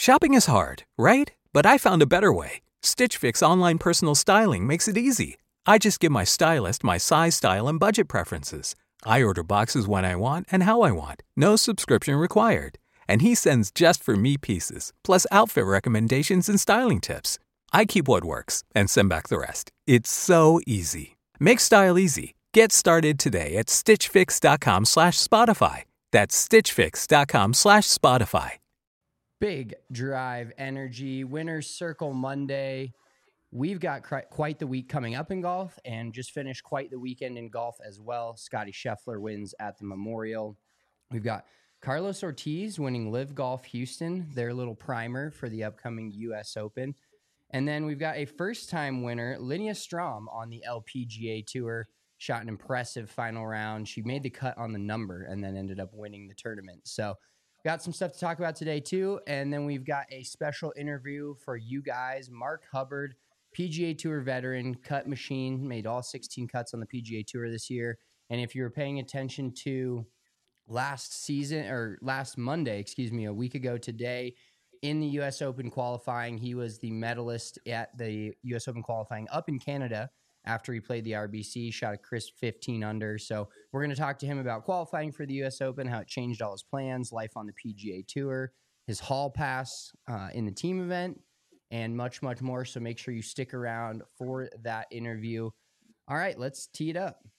Shopping is hard, right? But I found a better way. Stitch Fix online personal styling makes it easy. I just give my stylist my size, style, and budget preferences. I order boxes when I want and how I want. No subscription required. And he sends just for me pieces, plus outfit recommendations and styling tips. I keep what works and send back the rest. It's so easy. Make style easy. Get started today at stitchfix.com/Spotify. That's stitchfix.com/Spotify. Big Drive Energy Winner's Circle Monday. We've got quite the week coming up in golf and just finished quite the weekend in golf as well. Scotty Scheffler wins at the Memorial. We've got Carlos Ortiz winning Live Golf Houston, their little primer for the upcoming U.S. Open. And then we've got a first-time winner, Linnea Strom, on the LPGA Tour. Shot an impressive final round. She made the cut on the number and then ended up winning the tournament. So got some stuff to talk about today, too. And then we've got a special interview for you guys. Mark Hubbard, PGA Tour veteran, cut machine, made all 16 cuts on the PGA Tour this year. And if you were paying attention to last Monday, a week ago today, in the U.S. Open qualifying, he was the medalist at the U.S. Open qualifying up in Canada after he played the RBC, shot a crisp 15 under. So we're going to talk to him about qualifying for the U.S. Open, how it changed all his plans, life on the PGA Tour, his hall pass in the team event, and much, much more. So make sure you stick around for that interview. All right, let's tee it up.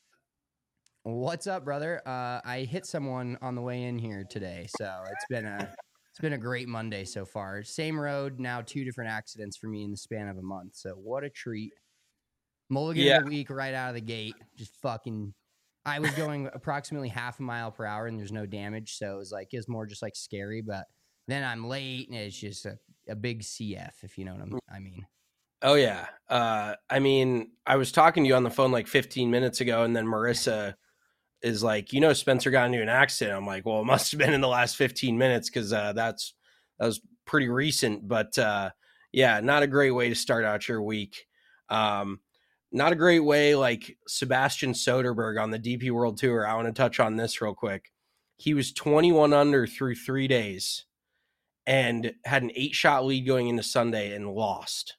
What's up, brother? I hit someone on the way in here today, so it's been a great Monday so far. Same road, now 2 different accidents for me in the span of a month. So what a treat. Mulligan of the week right out of the gate. Just fucking, I was going approximately half a mile per hour and there's no damage. So it was more just like scary, but then I'm late and it's just a big CF, if you know what I mean. Oh yeah. I was talking to you on the phone like 15 minutes ago and then Marissa is like, Spencer got into an accident. I'm like, well, it must have been in the last 15 minutes. Cause that was pretty recent, but yeah, not a great way to start out your week. Not a great way, like Sebastian Soderberg on the DP World Tour. I want to touch on this real quick. He was 21 under through 3 days and had an 8-shot lead going into Sunday and lost.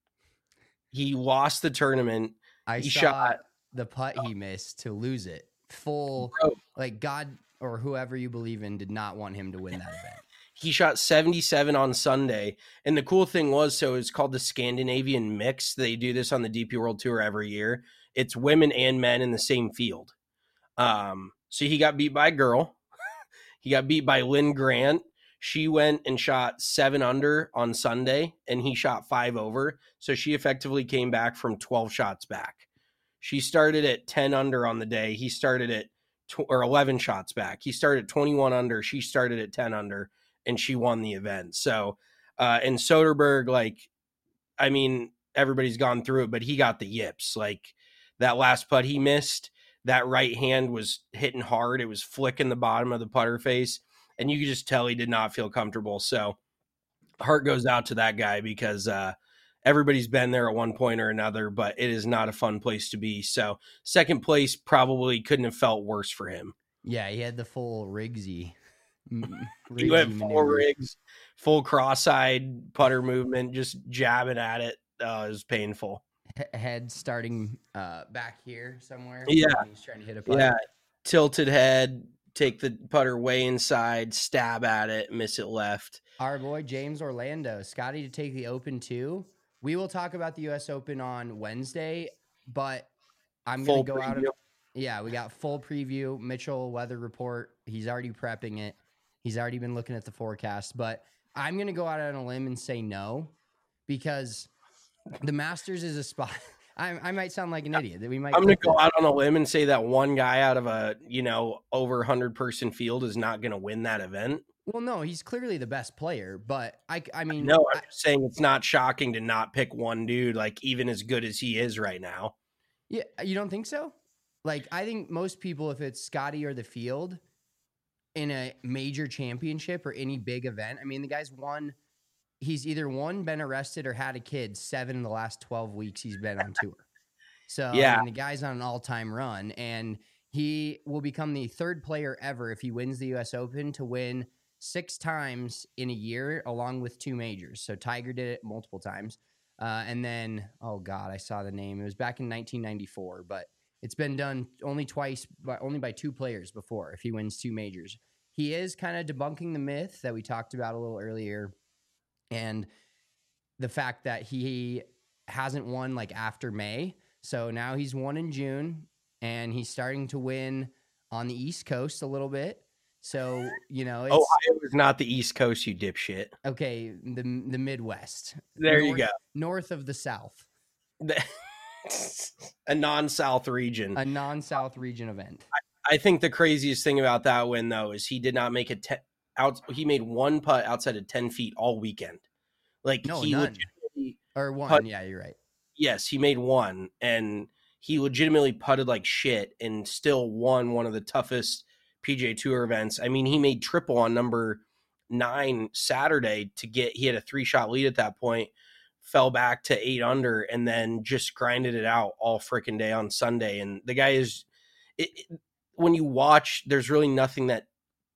He lost the tournament. He shot the putt he missed to lose it. Like God or whoever you believe in did not want him to win that event. He shot 77 on Sunday. And the cool thing was, so it's called the Scandinavian Mix. They do this on the DP World Tour every year. It's women and men in the same field. So he got beat by a girl. He got beat by Lynn Grant. She went and shot 7 under on Sunday, and he shot 5 over. So she effectively came back from 12 shots back. She started at 10 under on the day. He started at 11 shots back. He started at 21 under. She started at 10 under. And she won the event. So, and Soderberg, everybody's gone through it, but he got the yips. Like that last putt he missed, that right hand was hitting hard. It was flicking the bottom of the putter face, and you could just tell he did not feel comfortable. So, heart goes out to that guy because everybody's been there at one point or another, but it is not a fun place to be. So, second place probably couldn't have felt worse for him. Yeah, he had the full Riggsy. He went full rigs, full cross-eyed putter movement, just jabbing at it. It was painful. Head starting back here somewhere. Yeah. He's trying to hit a putter. Yeah. Tilted head, take the putter way inside, stab at it, miss it left. Our boy James Orlando, Scotty to take the Open too. We will talk about the U.S. Open on Wednesday, but I'm going to go out. Yeah, we got full preview. Mitchell weather report. He's already prepping it. He's already been looking at the forecast, but I'm going to go out on a limb and say no, because the Masters is a spot. I might sound like an idiot. I'm going to go out on a limb and say that one guy out of a, over 100-person field is not going to win that event. Well, no, he's clearly the best player, but I mean, no, I'm just saying it's not shocking to not pick one dude, like even as good as he is right now. Yeah. You don't think so? Like, I think most people, if it's Scotty or the field in a major championship or any big event, I mean, the guy's won. He's either been arrested or had a kid 7 in the last 12 weeks he's been on tour. So yeah, I mean, the guy's on an all-time run, and he will become the 3rd player ever if he wins the U.S. Open to win 6 times in a year, along with 2 majors. So Tiger did it multiple times. And then, oh God, I saw the name. It was back in 1994, but it's been done only twice, but only by 2 players before if he wins 2 majors. He is kind of debunking the myth that we talked about a little earlier, and the fact that he hasn't won like after May. So now he's won in June, and he's starting to win on the East Coast a little bit. So, it's Ohio is not the East Coast, you dipshit. Okay, the Midwest. There you go. North of the South. A non-South region. A non-South region event. I think the craziest thing about that win, though, is he did not make he made 1 putt outside of 10 feet all weekend. Like, no, he none. Or 1. Yeah, you're right. Yes, he made 1, and he legitimately putted like shit and still won one of the toughest PGA Tour events. I mean, he made triple on number 9 Saturday he had a 3-shot lead at that point, fell back to 8 under, and then just grinded it out all freaking day on Sunday. And the guy is, when you watch, there's really nothing that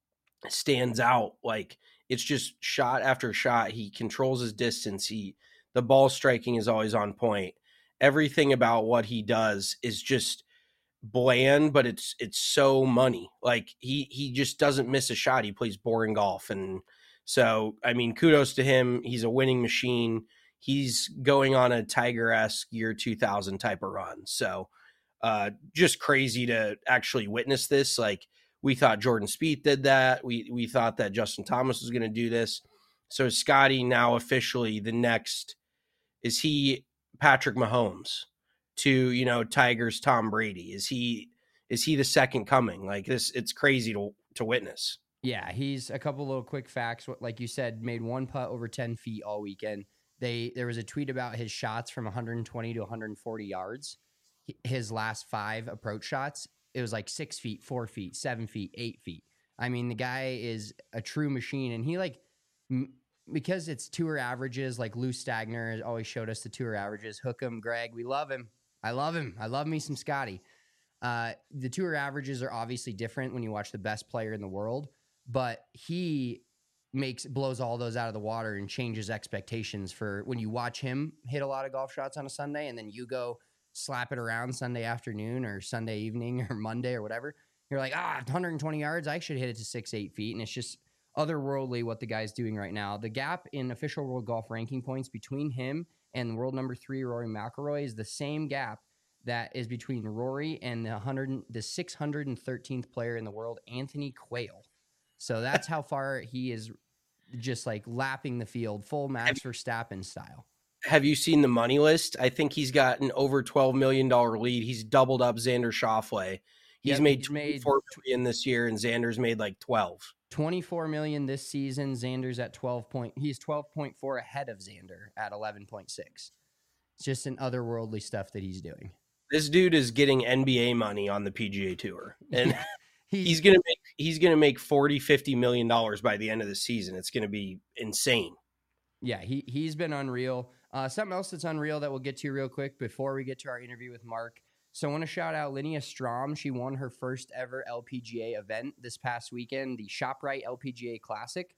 stands out. Like, it's just shot after shot. He controls his distance. The ball striking is always on point. Everything about what he does is just bland, but it's so money. Like, he just doesn't miss a shot. He plays boring golf. And so, I mean, kudos to him. He's a winning machine. He's going on a Tiger-esque year 2000 type of run. So just crazy to actually witness this. Like, we thought Jordan Spieth did that. We thought that Justin Thomas was going to do this. So Scotty now officially the next, is he Patrick Mahomes to, Tiger's Tom Brady? Is he the second coming? Like this, it's crazy to witness. Yeah, he's a couple little quick facts. Like you said, made 1 putt over 10 feet all weekend. There was a tweet about his shots from 120 to 140 yards. His last 5 approach shots, it was like 6 feet, 4 feet, 7 feet, 8 feet. I mean, the guy is a true machine, and he because it's tour averages, like Lou Stagner always showed us the tour averages. Hook 'em, Greg. We love him. I love him. I love me some Scotty. The tour averages are obviously different when you watch the best player in the world, but he blows all those out of the water and changes expectations for when you watch him hit a lot of golf shots on a Sunday, and then you go slap it around Sunday afternoon or Sunday evening or Monday or whatever. You're like, 120 yards. I should hit it to 6-8 feet. And it's just otherworldly what the guy's doing right now. The gap in official world golf ranking points between him and world number 3, Rory McIlroy, is the same gap that is between Rory and the 613th player in the world, Anthony Quayle. So that's how far he is just like lapping the field, full Max Verstappen style. Have you seen the money list? I think he's got an over $12 million lead. He's doubled up Xander Schauffele. He's made $24 million this year, and Xander's made like 12. $24 million this season. Xander's at 12. He's 12.4 ahead of Xander at 11.6. It's just an otherworldly stuff that he's doing. This dude is getting NBA money on the PGA Tour, and he's gonna make $40-50 million by the end of the season. It's gonna be insane. Yeah, he's been unreal. Something else that's unreal that we'll get to real quick before we get to our interview with Mark. So I want to shout out Linnea Strom. She won her first ever LPGA event this past weekend, the ShopRite LPGA Classic.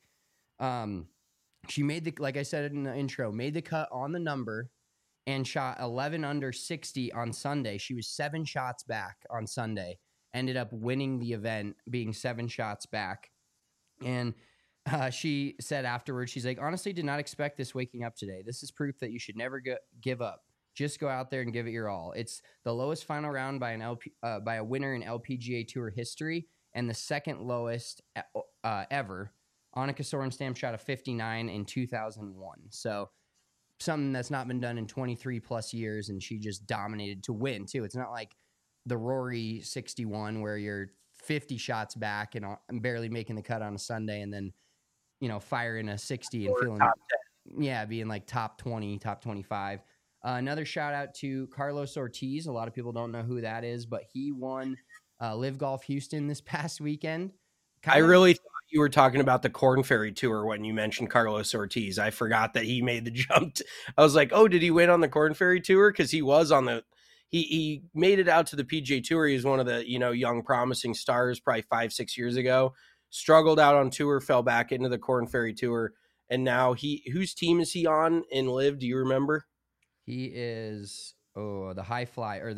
She made like I said in the intro, made the cut on the number and shot 11 under 60 on Sunday. She was 7 shots back on Sunday, ended up winning the event, being 7 shots back. And she said afterwards, she's like, honestly, did not expect this waking up today. This is proof that you should never give up. Just go out there and give it your all. It's the lowest final round by by a winner in LPGA Tour history, and the second lowest ever. Annika Sorenstam shot a 59 in 2001. So something that's not been done in 23 plus years, and she just dominated to win too. It's not like the Rory 61 where you're 50 shots back and barely making the cut on a Sunday, and then firing a 60 and feeling being like top 20, top 25. Another shout out to Carlos Ortiz. A lot of people don't know who that is, but he won Live Golf Houston this past weekend. I really thought you were talking about the Korn Ferry Tour when you mentioned Carlos Ortiz. I forgot that he made the jump. I was like, oh, did he win on the Korn Ferry Tour? Because he was on the he made it out to the PGA Tour. He was one of the young promising stars probably 5-6 years ago. struggled out on tour, fell back into the Corn Ferry Tour, and now whose team is he on in Live? Do you remember? He is the High Fly or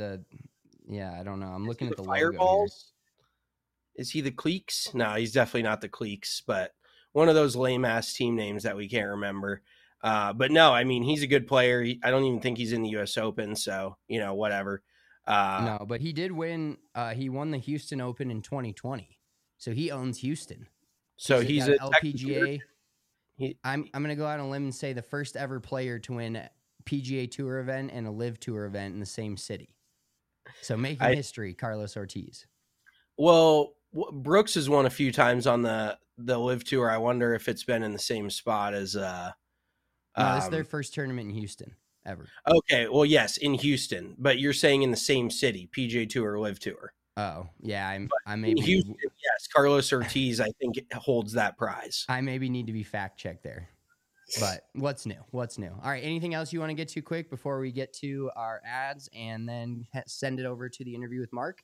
I don't know. I'm looking at the Fireballs. Is he the Cleeks? No, he's definitely not the Cleeks, but one of those lame ass team names that we can't remember. But no, I mean, he's a good player. I don't even think he's in the U.S. Open, so whatever. No, but he did win. He won the Houston Open in 2020, so he owns Houston. So he's a LPGA. I'm going to go out on a limb and say the first ever player to win a PGA Tour event and a Live Tour event in the same city. So making history, Carlos Ortiz. Well, Brooks has won a few times on the Live Tour. I wonder if it's been in the same spot as. No, this is their first tournament in Houston ever. Okay, well, yes, in Houston, but you're saying in the same city, PGA Tour, Live Tour. Oh, yeah, I maybe in Houston. Yes, Carlos Ortiz, I think, holds that prize. I maybe need to be fact checked there. But what's new? What's new? All right, anything else you want to get to quick before we get to our ads and then send it over to the interview with Mark?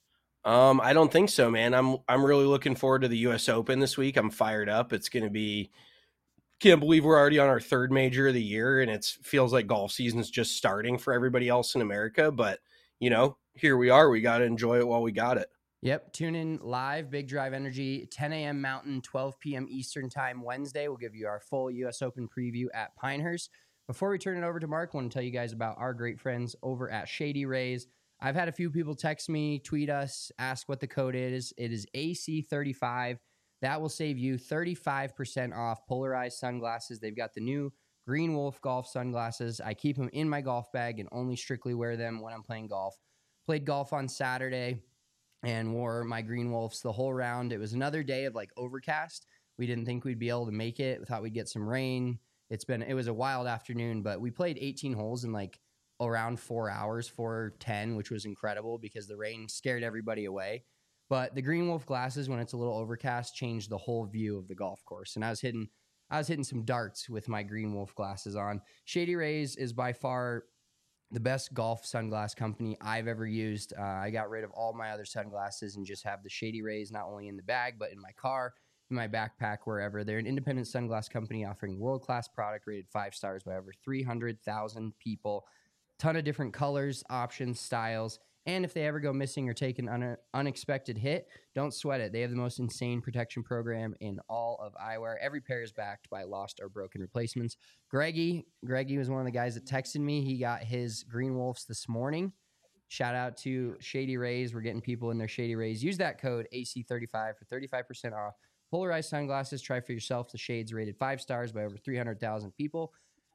I don't think so, man. I'm really looking forward to the U.S. Open this week. I'm fired up. It's going to be. Can't believe we're already on our third major of the year, and it feels like golf season's just starting for everybody else in America. But here we are. We got to enjoy it while we got it. Yep. Tune in live, Big Drive Energy, 10 a.m. Mountain, 12 p.m. Eastern Time Wednesday. We'll give you our full U.S. Open preview at Pinehurst. Before we turn it over to Mark, I want to tell you guys about our great friends over at Shady Rays. I've had a few people text me, tweet us, ask what the code is. It is AC35. That will save you 35% off polarized sunglasses. They've got the new Green Wolf golf sunglasses. I keep them in my golf bag and only strictly wear them when I'm playing golf. Played golf on Saturday and wore my Green Wolves the whole round. It was another day of overcast. We didn't think we'd be able to make it. We thought we'd get some rain. It was a wild afternoon, but we played 18 holes in around 4 hours, 4:10, which was incredible because the rain scared everybody away. But the Green Wolf glasses, when it's a little overcast, change the whole view of the golf course. And I was hitting some darts with my Green Wolf glasses on. Shady Rays is by far the best golf sunglass company I've ever used. I got rid of all my other sunglasses and just have the Shady Rays not only in the bag, but in my car, in my backpack, wherever. They're an independent sunglass company offering world-class product rated 5 stars by over 300,000 people. Ton of different colors, options, styles. And if they ever go missing or take an unexpected hit, don't sweat it. They have the most insane protection program in all of eyewear. Every pair is backed by lost or broken replacements. Greggy was one of the guys that texted me. He got his Green Wolves this morning. Shout out to Shady Rays. We're getting people in their Shady Rays. Use that code AC35 for 35% off. Polarized sunglasses. Try for yourself. The shades rated 5 stars by over 300,000 people.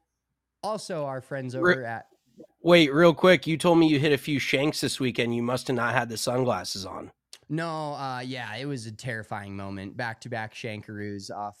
Also, our friends over at... Wait, real quick. You told me you hit a few shanks this weekend. You must have not had the sunglasses on. No, it was a terrifying moment. Back-to-back shankaroos off.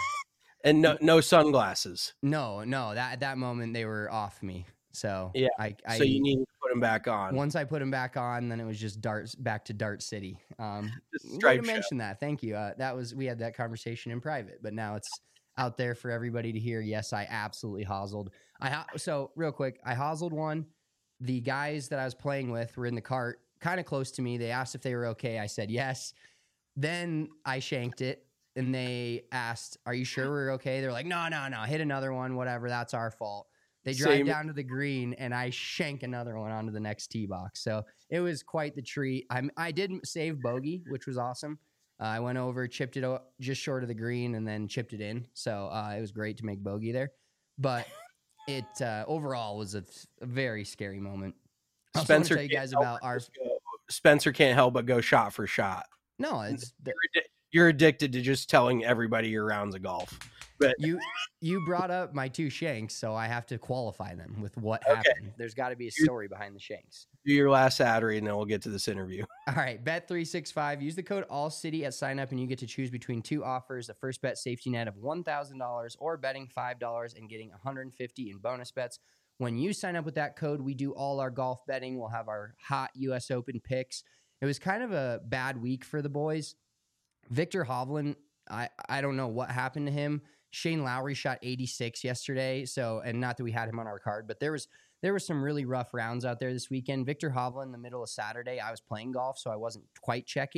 And no sunglasses. No. At that moment, they were off me. So yeah, so you need to put them back on. Once I put them back on, then it was just back to Dart City. Stripe to mention that. Thank you. We had that conversation in private, but now it's out there for everybody to hear. Yes, I absolutely hoselled. So real quick, I hoselled one. The guys that I was playing with were in the cart, kind of close to me. They asked if they were okay. I said yes. Then I shanked it, and they asked, "Are you sure we're okay?" They're like, "No, hit another one, whatever. That's our fault." They drive down to the green, and I shank another one onto the next tee box. So it was quite the treat. I did save bogey, which was awesome. I went over, chipped it just short of the green, and then chipped it in. So it was great to make bogey there. But it overall was a very scary moment. I also want to tell you guys about Spencer can't help but go shot for shot. No, you're addicted to just telling everybody your rounds of golf. But you brought up my 2 shanks, so I have to qualify them with what happened. There's got to be a story behind the shanks. Do your last ad read, and then we'll get to this interview. All right, Bet365. Use the code ALLCITY at sign up, and you get to choose between 2 offers: a first bet safety net of $1,000 or betting $5 and getting $150 in bonus bets. When you sign up with that code, we do all our golf betting. We'll have our hot U.S. Open picks. It was kind of a bad week for the boys. Viktor Hovland, I don't know what happened to him. Shane Lowry shot 86 yesterday. And not that we had him on our card, but there were some really rough rounds out there this weekend. Viktor Hovland, in the middle of Saturday, I was playing golf, so I wasn't quite checking.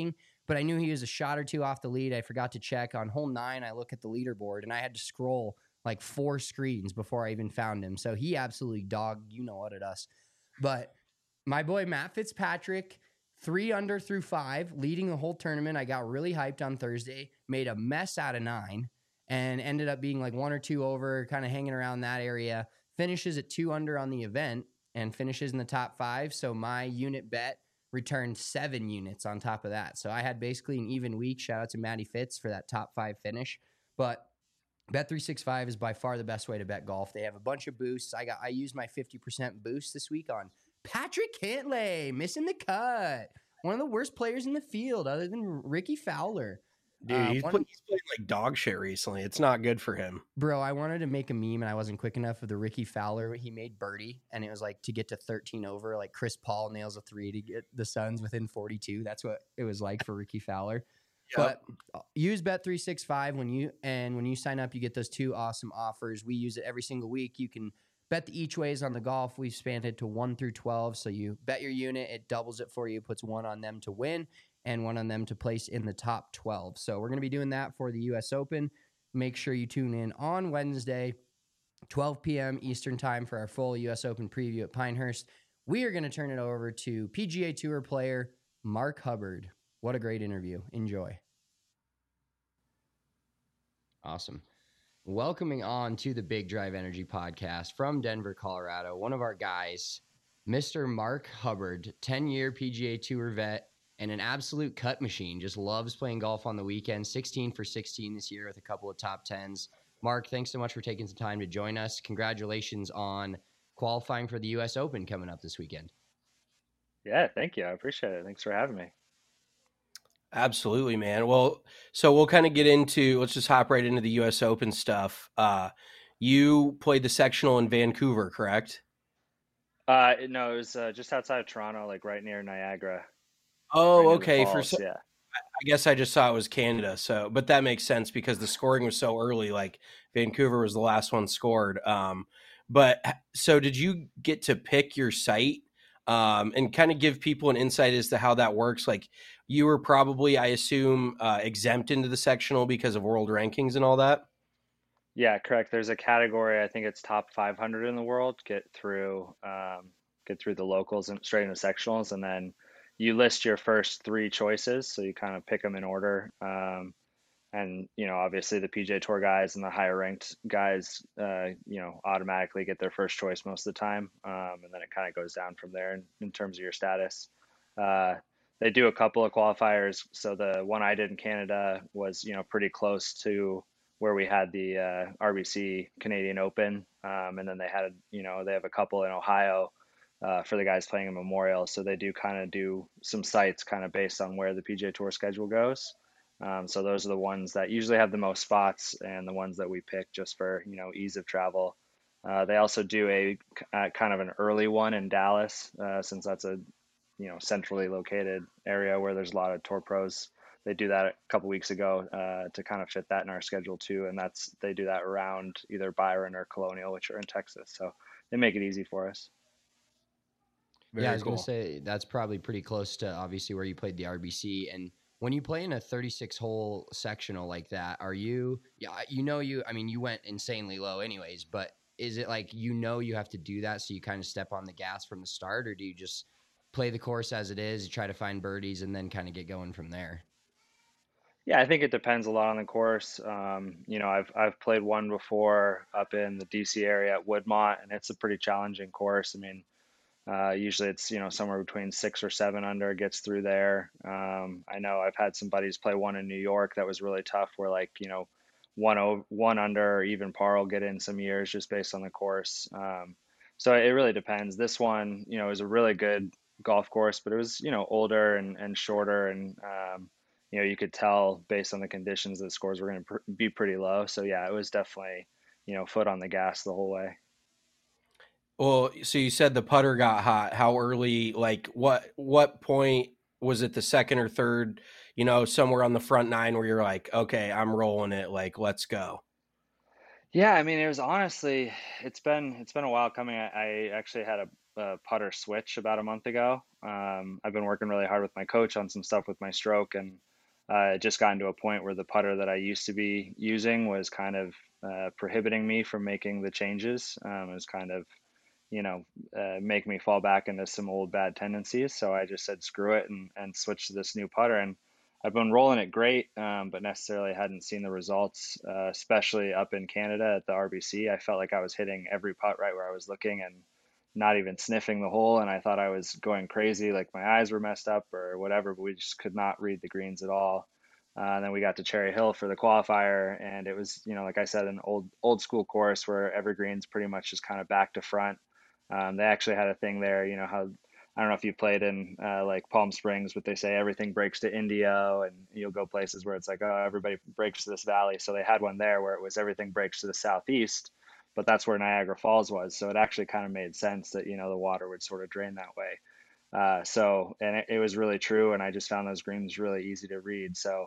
but I knew he was a shot or two off the lead. I forgot to check on hole 9. I look at the leaderboard and I had to scroll like 4 screens before I even found him. So he absolutely dogged, you know what, at us. But my boy Matt Fitzpatrick, 3 under through 5, leading the whole tournament. I got really hyped on Thursday, made a mess out of 9, and ended up being like 1 or 2 over, kind of hanging around that area. Finishes at 2 under on the event and finishes in the top 5. So my unit bet returned 7 units on top of that. So I had basically an even week. Shout out to Matty Fitz for that top 5 finish. But Bet365 is by far the best way to bet golf. They have a bunch of boosts. I used my 50% boost this week on Patrick Cantlay, missing the cut. One of the worst players in the field other than Ricky Fowler. Dude, he's playing like dog shit recently. It's not good for him. Bro, I wanted to make a meme and I wasn't quick enough of the Ricky Fowler. He made birdie and it was like to get to 13 over, like Chris Paul nails a 3 to get the Suns within 42. That's what it was like for Ricky Fowler. Yep. But use Bet365 when you sign up, you get those 2 awesome offers. We use it every single week. You can bet the each ways on the golf. We've spanned it to 1 through 12. So you bet your unit, it doubles it for you, puts 1 on them to win and 1 on them to place in the top 12. So we're going to be doing that for the U.S. Open. Make sure you tune in on Wednesday, 12 p.m. Eastern time for our full U.S. Open preview at Pinehurst. We are going to turn it over to PGA Tour player Mark Hubbard. What a great interview. Enjoy. Awesome. Welcoming on to the Big Drive Energy podcast from Denver, Colorado, one of our guys, Mr. Mark Hubbard, 10-year PGA Tour vet and an absolute cut machine. Just loves playing golf on the weekend. 16 for 16 this year with a couple of top 10s. Mark, thanks so much for taking some time to join us. Congratulations on qualifying for the U.S. Open coming up this weekend. Yeah, thank you. I appreciate it. Thanks for having me. Absolutely, man. Well, so we'll kind of let's just hop right into the U.S. Open stuff. You played the sectional in Vancouver, correct? No, it was just outside of Toronto, like right near Niagara. Oh, okay. Yeah. I guess I just saw it was Canada. So, but that makes sense because the scoring was so early. Like Vancouver was the last one scored. But so did you get to pick your site and kind of give people an insight as to how that works? Like you were probably, I assume, exempt into the sectional because of world rankings and all that. Yeah, correct. There's a category, I think it's top 500 in the world, get through the locals and straight into sectionals, and then you list your first 3 choices, so you kind of pick them in order. And obviously the PGA Tour guys and the higher ranked guys, automatically get their first choice most of the time, and then it kind of goes down from there in terms of your status. They do a couple of qualifiers, so the one I did in Canada was pretty close to where we had the RBC Canadian Open, and then they have a couple in Ohio for the guys playing in Memorial. So they do some sites kind of based on where the PGA Tour schedule goes. So those are the ones that usually have the most spots and the ones that we pick just for ease of travel. They also do a kind of an early one in Dallas, since that's a centrally located area where there's a lot of tour pros. They do that a couple weeks ago to kind of fit that in our schedule too, and they do that around either Byron or Colonial, which are in Texas. So they make it easy for us. Very I was going to say that's probably pretty close to obviously where you played the RBC. And when you play in a 36-hole sectional like that, you went insanely low anyways, but is it like you have to do that so you kind of step on the gas from the start, or do you just play the course as it is, you try to find birdies, and then kind of get going from there? Yeah, I think it depends a lot on the course. I've played one before up in the DC area at Woodmont, and it's a pretty challenging course. I mean, usually it's somewhere between 6 or 7 under gets through there. I know I've had some buddies play one in New York that was really tough, where one under or even par will get in some years just based on the course. So it really depends. This one, is a really good golf course, but it was older and shorter, and you could tell based on the conditions that scores were going to be pretty low. So yeah, it was definitely foot on the gas the whole way. Well, so you said the putter got hot. How early? Like what point was it? The second or third? Somewhere on the front 9 where you're like, okay, I'm rolling it. Like, let's go. Yeah, I mean, it was honestly, it's been a while coming. I actually had a putter switch about a month ago. I've been working really hard with my coach on some stuff with my stroke, and it just gotten to a point where the putter that I used to be using was kind of prohibiting me from making the changes. It was kind of, make me fall back into some old bad tendencies. So I just said screw it and switched to this new putter. And I've been rolling it great, but necessarily hadn't seen the results, especially up in Canada at the RBC. I felt like I was hitting every putt right where I was looking and not even sniffing the hole. And I thought I was going crazy, like my eyes were messed up or whatever, but we just could not read the greens at all. And then we got to Cherry Hill for the qualifier, and it was, like I said, an old school course where every green's pretty much just kind of back to front. They actually had a thing there, how I don't know if you played in like Palm Springs, but they say everything breaks to Indio, and you'll go places where it's like, oh, everybody breaks to this valley. So they had one there where it was everything breaks to the southeast, but that's where Niagara Falls was. So it actually kind of made sense that, the water would sort of drain that way. And it was really true. And I just found those greens really easy to read. So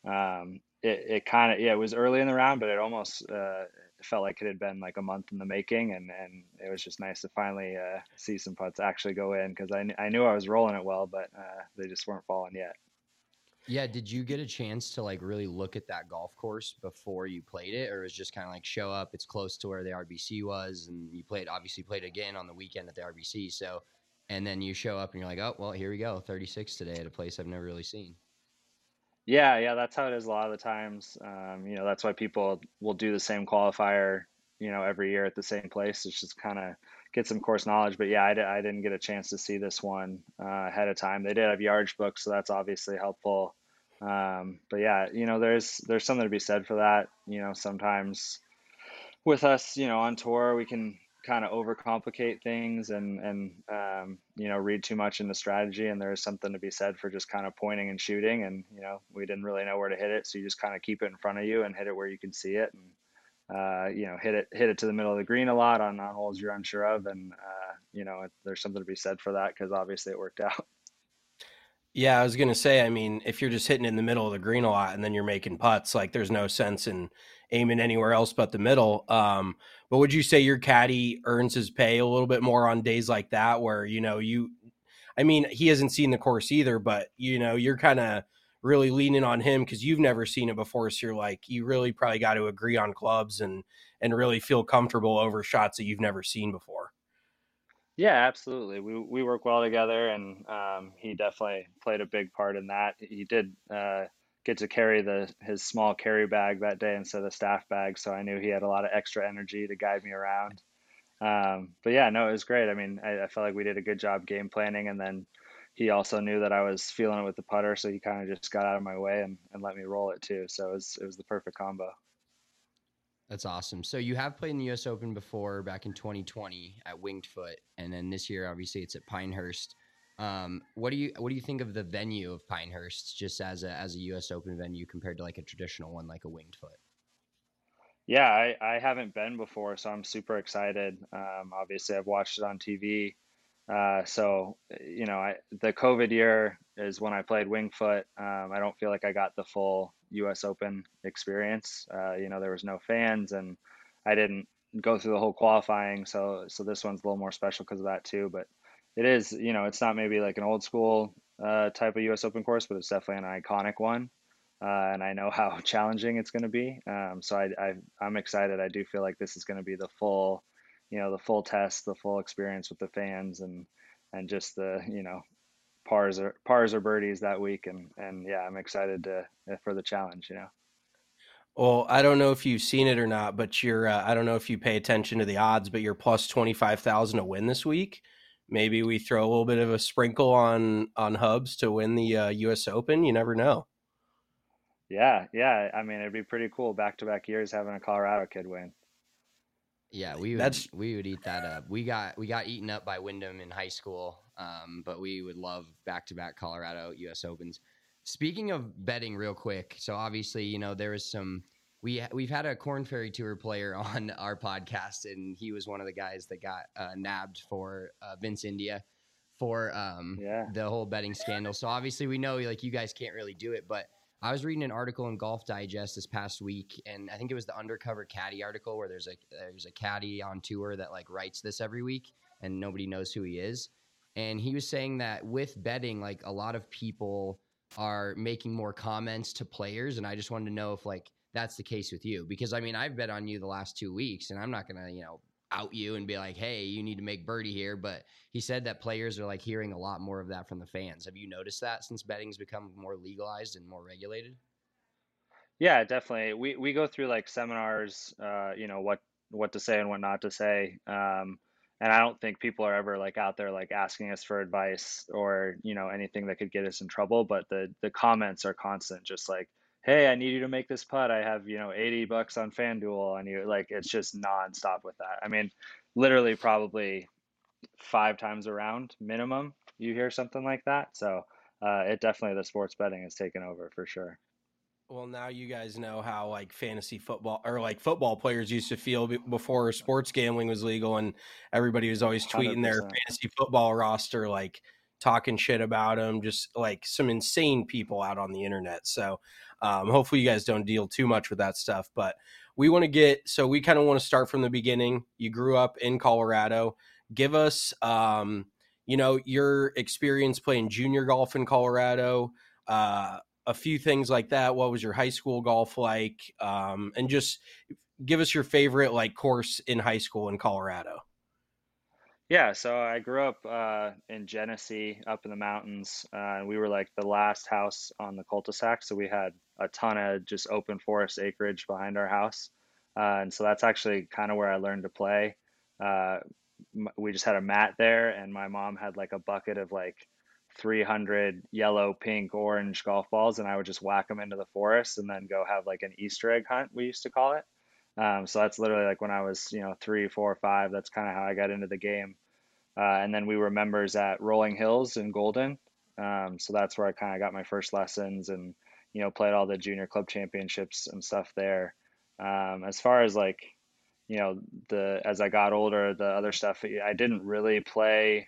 it kind of, yeah, it was early in the round, but it almost felt like it had been like a month in the making. And it was just nice to finally see some putts actually go in, because I knew I was rolling it well, but they just weren't falling yet. Yeah. Did you get a chance to like really look at that golf course before you played it, or was just kind of like show up? It's close to where the RBC was, and you obviously played again on the weekend at the RBC. So, and then you show up and you're like, oh, well, here we go. 36 today at a place I've never really seen. Yeah, that's how it is a lot of the times. That's why people will do the same qualifier, every year at the same place. It's just kind of get some course knowledge. But yeah, I didn't get a chance to see this one ahead of time. They did have yards booked, so that's obviously helpful. But yeah, there's something to be said for that. Sometimes with us, on tour, we can kind of overcomplicate things and read too much into strategy. And there's something to be said for just kind of pointing and shooting. And we didn't really know where to hit it, so you just kind of keep it in front of you and hit it where you can see it. And hit it to the middle of the green a lot on holes you're unsure of. And there's something to be said for that, because obviously it worked out. Yeah, I was going to say, I mean, if you're just hitting in the middle of the green a lot and then you're making putts, like there's no sense in aiming anywhere else but the middle. But would you say your caddy earns his pay a little bit more on days like that where, I mean, he hasn't seen the course either, but, you're kind of really leaning on him because you've never seen it before. So you're like, you really probably got to agree on clubs and really feel comfortable over shots that you've never seen before. Yeah, absolutely. We work well together, and he definitely played a big part in that. He did get to carry his small carry bag that day instead of the staff bag, so I knew he had a lot of extra energy to guide me around. But yeah, no, it was great. I mean, I felt like we did a good job game planning, and then he also knew that I was feeling it with the putter, so he kind of just got out of my way and let me roll it too. So it was the perfect combo. That's awesome. So you have played in the U.S. Open before, back in 2020 at Winged Foot, and then this year, obviously, it's at Pinehurst. What do you think of the venue of Pinehurst, just as a U.S. Open venue compared to like a traditional one, like a Winged Foot? Yeah, I haven't been before, so I'm super excited. Obviously, I've watched it on TV. So, the COVID year is when I played Winged Foot. I don't feel like I got the full U.S. Open experience. There was no fans, and I didn't go through the whole qualifying. So this one's a little more special because of that too. But it is, it's not maybe like an old school type of U.S. Open course, but it's definitely an iconic one. And I know how challenging it's going to be. So I'm excited. I do feel like this is going to be the full test, the full experience with the fans, and just the pars or birdies that week. And yeah, I'm excited for the challenge. Well, I don't know if you've seen it or not, but I don't know if you pay attention to the odds, but you're plus 25,000 to win this week. Maybe we throw a little bit of a sprinkle on Hubs to win the U.S. Open. You never know. Yeah. I mean, it'd be pretty cool back-to-back years having a Colorado kid win. Yeah, we would eat that up. We got eaten up by Wyndham in high school, but we would love back-to-back Colorado U.S. Opens. Speaking of betting, real quick, so obviously, there was some. We've had a Corn Ferry Tour player on our podcast, and he was one of the guys that got nabbed for Vince India for the whole betting scandal. So obviously, we know like you guys can't really do it, but I was reading an article in Golf Digest this past week, and I think it was the Undercover Caddy article where there's a caddy on tour that like writes this every week, and nobody knows who he is. And he was saying that with betting, like a lot of people are making more comments to players. And I just wanted to know if like that's the case with you, because I mean, I've bet on you the last 2 weeks, and I'm not going to, out you and be like, hey, you need to make birdie here. But he said that players are like hearing a lot more of that from the fans. Have you noticed that since betting's become more legalized and more regulated? Yeah, definitely. We go through like seminars, what to say and what not to say. And I don't think people are ever like out there like asking us for advice or, anything that could get us in trouble. But the comments are constant, just like, hey, I need you to make this putt. I have, $80 on FanDuel, and you like it's just nonstop with that. I mean, literally probably 5 times around minimum, you hear something like that. So it definitely the sports betting has taken over for sure. Well, now you guys know how like fantasy football or like football players used to feel before sports gambling was legal, and everybody was always tweeting their 100%. fantasy football roster, like talking shit about them, just like some insane people out on the internet. So hopefully you guys don't deal too much with that stuff, but we kind of want to start from the beginning. You grew up in Colorado. Give us, your experience playing junior golf in Colorado, a few things like that. What was your high school golf like? And just give us your favorite like course in high school in Colorado. Yeah, so I grew up in Genesee, up in the mountains. And we were like the last house on the cul-de-sac, so we had a ton of just open forest acreage behind our house. And so that's actually kind of where I learned to play. Uh, we just had a mat there, and my mom had like a bucket of like 300 yellow, pink, orange golf balls, and I would just whack them into the forest and then go have like an Easter egg hunt, we used to call it. So that's literally like when I was, 3, 4, 5. That's kind of how I got into the game. And then we were members at Rolling Hills in Golden. So that's where I kind of got my first lessons and, played all the junior club championships and stuff there. As far as like, as I got older, the other stuff, I didn't really play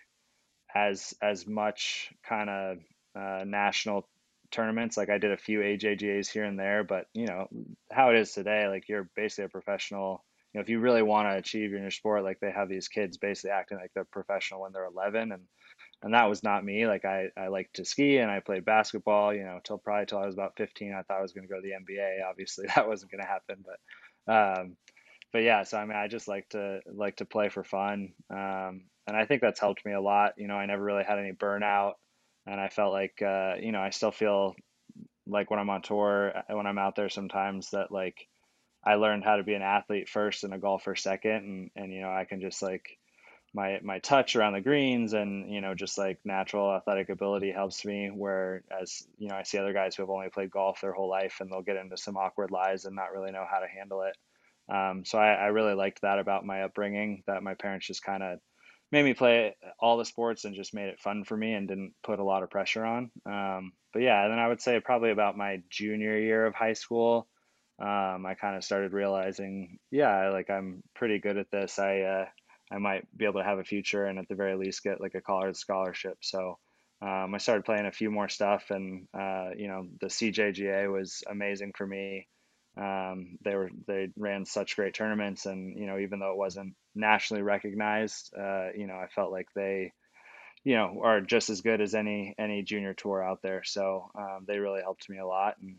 as much kind of national tournaments. Like I did a few AJGAs here and there, but how it is today, like you're basically a professional. If you really want to achieve in your sport, like they have these kids basically acting like they're professional when they're 11, and that was not me. Like I liked to ski and I played basketball, till I was about 15. I thought I was going to go to the NBA. Obviously, that wasn't going to happen, but yeah. So I mean, I just like to play for fun, and I think that's helped me a lot. I never really had any burnout, and I felt like I still feel like when I'm on tour, when I'm out there sometimes that like I learned how to be an athlete first and a golfer second, and I can just like my touch around the greens and just like natural athletic ability helps me. Whereas I see other guys who have only played golf their whole life and they'll get into some awkward lies and not really know how to handle it. So I really liked that about my upbringing, that my parents just kind of made me play all the sports and just made it fun for me and didn't put a lot of pressure on. But yeah, and then I would say probably about my junior year of high school, I kind of started realizing, yeah, like I'm pretty good at this. I might be able to have a future and at the very least get like a college scholarship. So I started playing a few more stuff, and the CJGA was amazing for me. They ran such great tournaments, and even though it wasn't nationally recognized, I felt like they are just as good as any junior tour out there. So they really helped me a lot, and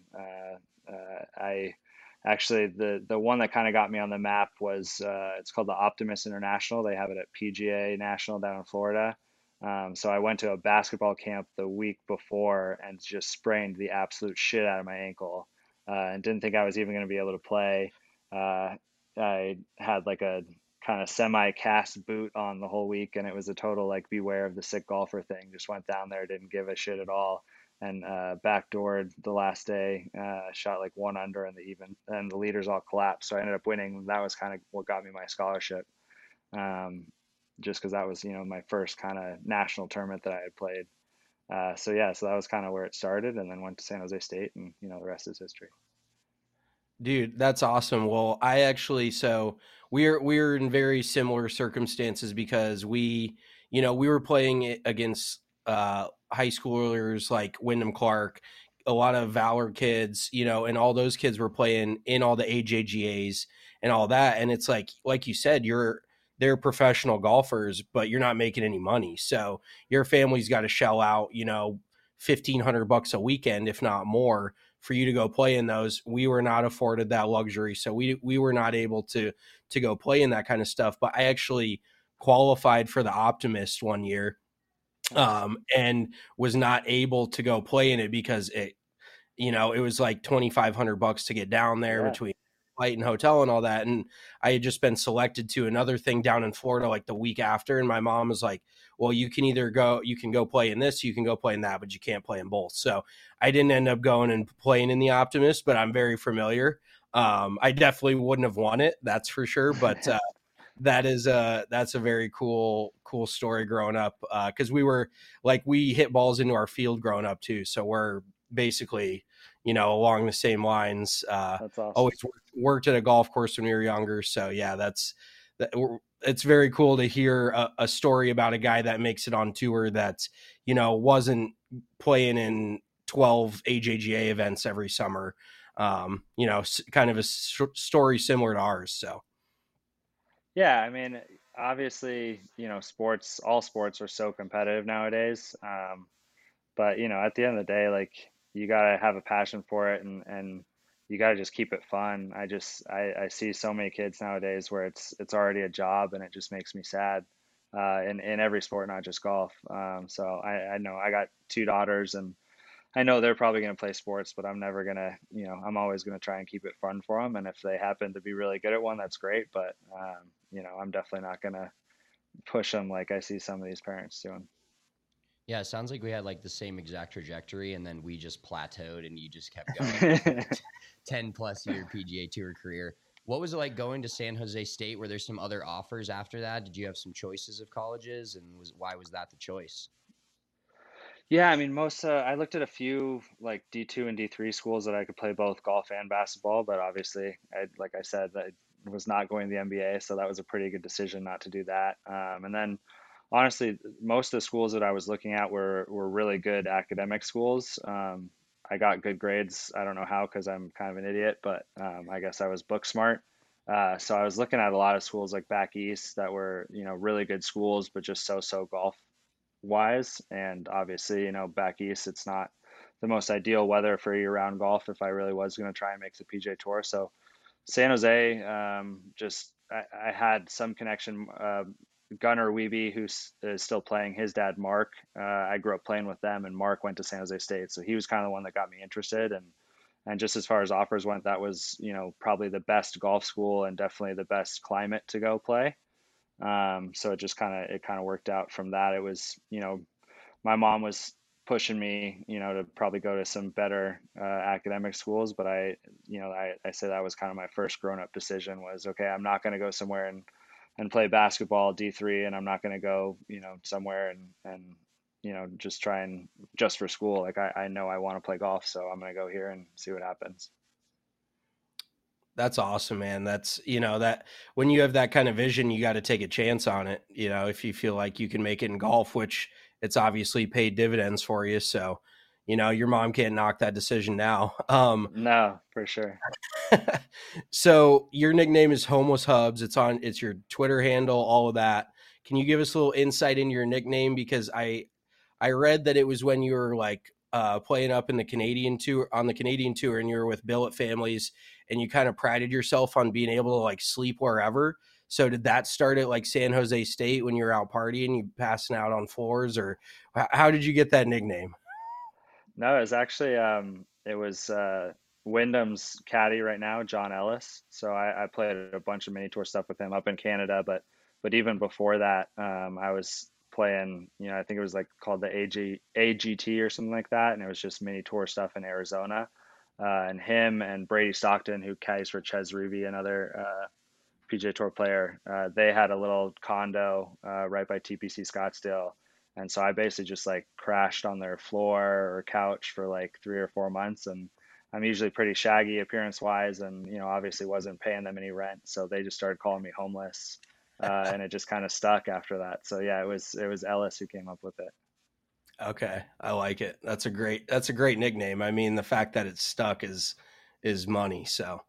I actually the one that kind of got me on the map was it's called the Optimus International. They have it at PGA National down in Florida. So I went to a basketball camp the week before and just sprained the absolute shit out of my ankle, and didn't think I was even going to be able to play. I had like a kind of semi-cast boot on the whole week, and it was a total like beware of the sick golfer thing. Just went down there, didn't give a shit at all, and backdoored the last day. Shot like 1 under in the even, and the leaders all collapsed. So I ended up winning. That was kind of what got me my scholarship, just because that was my first kind of national tournament that I had played. So yeah, so that was kind of where it started, and then went to San Jose State, and the rest is history. Dude, that's awesome. Well, I actually, so we're in very similar circumstances because we were playing against high schoolers like Wyndham Clark, a lot of Valor kids, and all those kids were playing in all the AJGAs and all that. And it's like you said, they're professional golfers, but you're not making any money. So your family's got to shell out, $1,500 a weekend, if not more, for you to go play in those. We were not afforded that luxury. So we were not able to go play in that kind of stuff. But I actually qualified for the Optimist one year, and was not able to go play in it because it was like $2,500 to get down there between flight and hotel and all that. And I had just been selected to another thing down in Florida like the week after. And my mom was like, well, you can go play in this, you can go play in that, but you can't play in both. So I didn't end up going and playing in the Optimist, but I'm very familiar. I definitely wouldn't have won it, that's for sure. But that's a very cool story growing up. Cause we hit balls into our field growing up too. So we're basically, along the same lines. That's awesome. Always worked at a golf course when we were younger. So yeah, it's very cool to hear a story about a guy that makes it on tour that's, wasn't playing in 12 AJGA events every summer. Kind of a story similar to ours. So. Yeah, I mean, obviously, all sports are so competitive nowadays. But at the end of the day, like you gotta have a passion for it, and you gotta just keep it fun. I see so many kids nowadays where it's already a job, and it just makes me sad. In every sport, not just golf. So I know I got two daughters, and I know they're probably going to play sports, but I'm never going to, I'm always going to try and keep it fun for them. And if they happen to be really good at one, that's great. But, I'm definitely not going to push them like I see some of these parents doing. Yeah, it sounds like we had like the same exact trajectory, and then we just plateaued and you just kept going. 10 plus year PGA Tour career. What was it like going to San Jose State? Were there some other offers after that? Did you have some choices of colleges, and why was that the choice? Yeah, I mean, I looked at a few like D2 and D3 schools that I could play both golf and basketball, but obviously, like I said, I was not going to the NBA, so that was a pretty good decision not to do that. And then, honestly, most of the schools that I was looking at were really good academic schools. I got good grades. I don't know how, because I'm kind of an idiot, but I guess I was book smart. So I was looking at a lot of schools like back east that were, really good schools, but just so golf wise. And obviously, back east, it's not the most ideal weather for year-round golf if I really was going to try and make the PJ Tour. So San Jose, I had some connection. Gunnar Wiebe, is still playing, his dad Mark. I grew up playing with them, and Mark went to San Jose State, so he was kind of the one that got me interested. And just as far as offers went, that was probably the best golf school and definitely the best climate to go play. So it kind of worked out from that. It was, my mom was pushing me, to probably go to some better academic schools, but I say that was kind of my first grown up decision was, okay, I'm not going to go somewhere and play basketball D3, and I'm not going to go, somewhere and just try and just for school. Like I know I want to play golf, so I'm going to go here and see what happens. That's awesome, man. That's, that when you have that kind of vision, you got to take a chance on it. If you feel like you can make it in golf, which it's obviously paid dividends for you. So, your mom can't knock that decision now. No, for sure. So your nickname is Homeless Hubs. It's your Twitter handle, all of that. Can you give us a little insight into your nickname? Because I read that it was when you were like playing up in the Canadian tour, and you were with Billet Families, and you kind of prided yourself on being able to like sleep wherever. So did that start at like San Jose State when you were out partying, you passing out on floors, or how did you get that nickname? No, it was actually it was Wyndham's caddy right now, John Ellis. So I played a bunch of mini tour stuff with him up in Canada, but even before that, I was playing, I think it was like called the AGT or something like that, and it was just mini tour stuff in Arizona. And him and Brady Stockton, who caddies for Ches Reavie, another PGA Tour player, they had a little condo right by TPC Scottsdale. And so I basically just like crashed on their floor or couch for like 3 or 4 months. And I'm usually pretty shaggy appearance wise, and obviously wasn't paying them any rent. So they just started calling me homeless. And it just kind of stuck after that. So yeah, it was Ellis who came up with it. Okay, I like it. That's a great nickname. I mean, the fact that it's stuck is money. So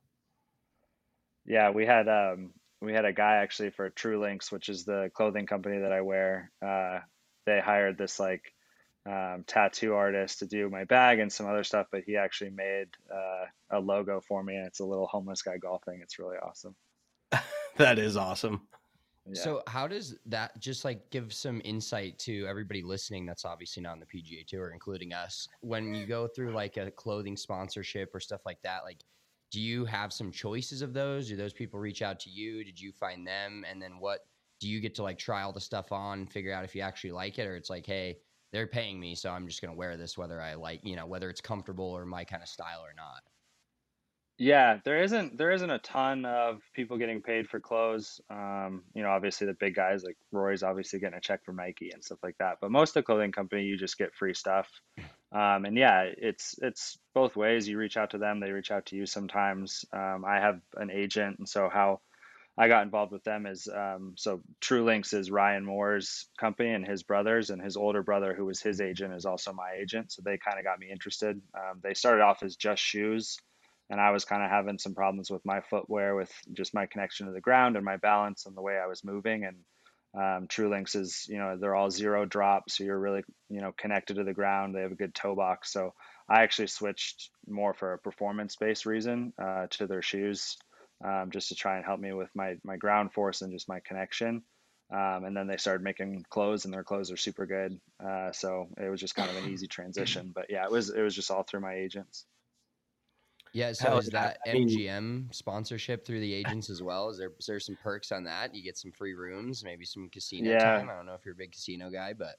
Yeah, we had a guy actually for True Links, which is the clothing company that I wear. They hired this like tattoo artist to do my bag and some other stuff, but he actually made a logo for me, and it's a little homeless guy golfing. It's really awesome. That is awesome. Yeah. So how does that, just like give some insight to everybody listening that's obviously not on the PGA Tour, including us, when you go through like a clothing sponsorship or stuff like that, like do you have some choices of those? Do those people reach out to you? Did you find them? And then what do you get to like try all the stuff on and figure out if you actually like it? Or it's like, hey, they're paying me, so I'm just going to wear this whether I like, whether it's comfortable or my kind of style or not. Yeah, there isn't a ton of people getting paid for clothes. Obviously the big guys like Roy's obviously getting a check from Nike and stuff like that. But most of the clothing company, you just get free stuff. And yeah, it's both ways. You reach out to them, they reach out to you sometimes. I have an agent, and so how I got involved with them is so True Links is Ryan Moore's company and his brothers, and his older brother, who was his agent, is also my agent. So they kind of got me interested. They started off as just shoes, and I was kind of having some problems with my footwear, with just my connection to the ground and my balance and the way I was moving. And True Links is, they're all zero drop, so you're really, connected to the ground. They have a good toe box. So I actually switched more for a performance-based reason to their shoes, just to try and help me with my ground force and just my connection. And then they started making clothes, and their clothes are super good. So it was just kind of an easy transition. But yeah, it was just all through my agents. Yeah, so Hell is yeah. that I mean, MGM sponsorship through the agents as well? Is there some perks on that? You get some free rooms, maybe some casino Yeah. time. I don't know if you're a big casino guy, but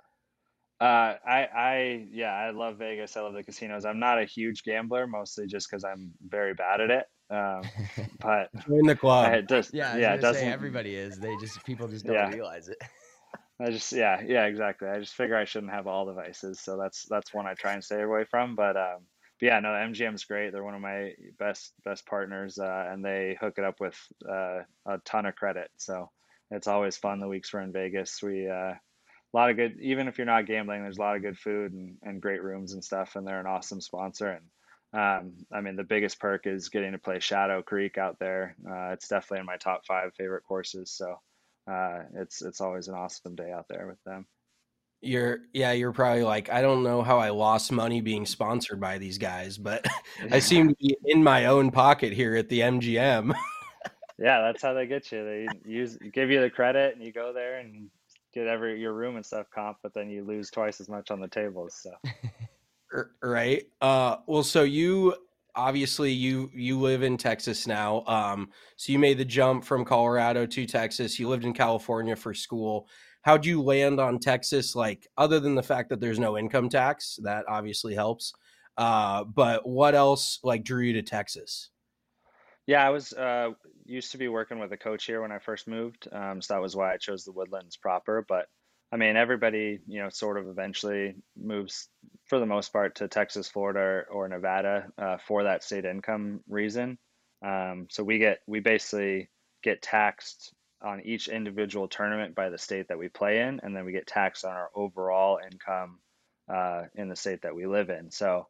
Yeah, I love Vegas. I love the casinos. I'm not a huge gambler, mostly just because I'm very bad at it. But join the club. it just, yeah, I was yeah, it gonna say doesn't, everybody is. People just don't yeah, realize it. yeah, exactly. I just figure I shouldn't have all the vices, so that's one I try and stay away from. But yeah, no, MGM's great. They're one of my best partners, and they hook it up with a ton of credit. So it's always fun the weeks we're in Vegas. A lot of good, even if you're not gambling, there's a lot of good food and great rooms and stuff, and they're an awesome sponsor. And I mean, the biggest perk is getting to play Shadow Creek out there. It's definitely in my top 5 favorite courses. So it's always an awesome day out there with them. You're probably like, I don't know how I lost money being sponsored by these guys, but I seem to be in my own pocket here at the MGM. Yeah, that's how they get you. They give you the credit, and you go there and get your room and stuff comp, but then you lose twice as much on the tables. So Right. Well, so you obviously you live in Texas now. So you made the jump from Colorado to Texas. You lived in California for school. How'd you land on Texas? Like, other than the fact that there's no income tax, that obviously helps. But what else like drew you to Texas? yeah, I was used to be working with a coach here when I first moved, so that was why I chose the Woodlands proper. But I mean, everybody, sort of eventually moves for the most part to Texas, Florida, or Nevada for that state income reason. So we basically get taxed on each individual tournament by the state that we play in, and then we get taxed on our overall income in the state that we live in. So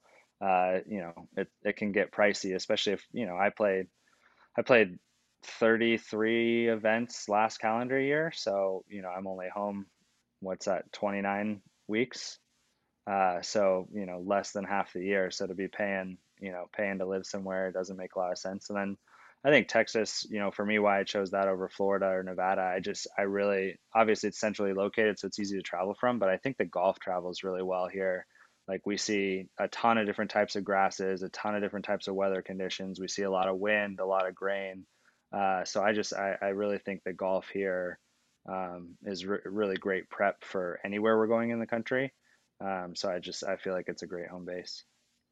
it can get pricey, especially if I played 33 events last calendar year, so I'm only home, what's that, 29 weeks. So less than half the year. So to be paying to live somewhere doesn't make a lot of sense. And then I think Texas, for me, why I chose that over Florida or Nevada, I really, obviously it's centrally located, so it's easy to travel from, but I think the golf travels really well here. Like we see a ton of different types of grasses, a ton of different types of weather conditions. We see a lot of wind, a lot of grain. So I really think the golf here is really great prep for anywhere we're going in the country. So I feel like it's a great home base.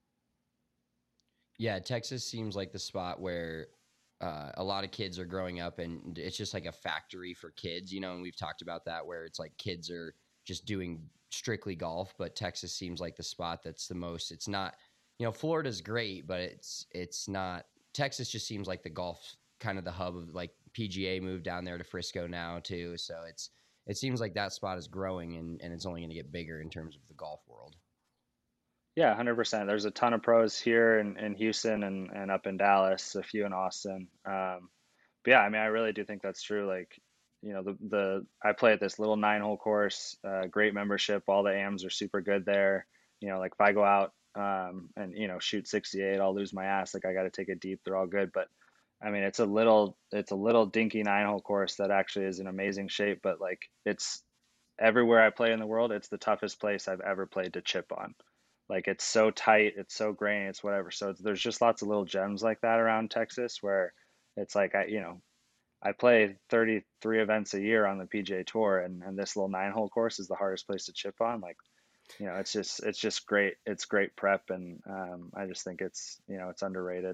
Yeah, Texas seems like the spot where a lot of kids are growing up, and it's just like a factory for kids, and we've talked about that where it's like kids are just doing strictly golf, but Texas seems like the spot that's the most. It's not, Florida's great, but it's not. Texas just seems like the golf kind of the hub of like PGA moved down there to Frisco now too, so it seems like that spot is growing and it's only going to get bigger in terms of the golf world. Yeah, 100%. There's a ton of pros here in Houston and up in Dallas, a few in Austin. But yeah, I mean, I really do think that's true. Like I play at this little 9-hole course, great membership. All the AMs are super good there. Like if I go out and shoot 68, I'll lose my ass. Like I got to take it deep. They're all good, but I mean it's a little dinky 9-hole course that actually is in amazing shape. But like it's everywhere I play in the world, it's the toughest place I've ever played to chip on. Like it's so tight, it's so grainy, it's whatever. So there's just lots of little gems like that around Texas where it's like I play 33 events a year on the PGA Tour, and this little 9-hole course is the hardest place to chip on. Like, it's just great. It's great prep, and I just think it's underrated.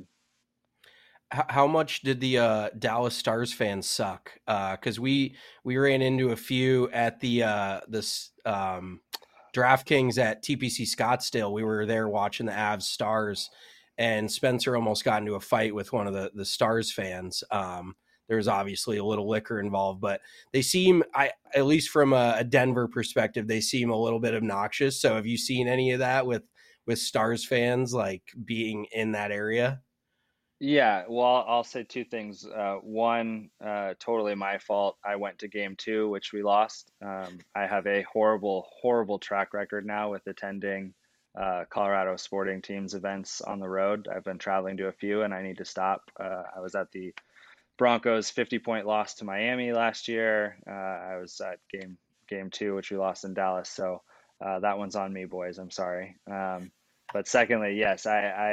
How much did the Dallas Stars fans suck? Because we ran into a few at the this DraftKings at TPC Scottsdale. We were there watching the Avs Stars, and Spencer almost got into a fight with one of the Stars fans. There's obviously a little liquor involved, but they seem, at least from a Denver perspective, they seem a little bit obnoxious. So have you seen any of that with Stars fans like being in that area? Yeah, well, I'll say two things. One, totally my fault. I went to game two, which we lost. I have a horrible, horrible track record now with attending Colorado sporting teams events on the road. I've been traveling to a few, and I need to stop. I was at the Broncos 50-point loss to Miami last year. I was at game two, which we lost in Dallas. So that one's on me, boys. I'm sorry. But secondly, yes,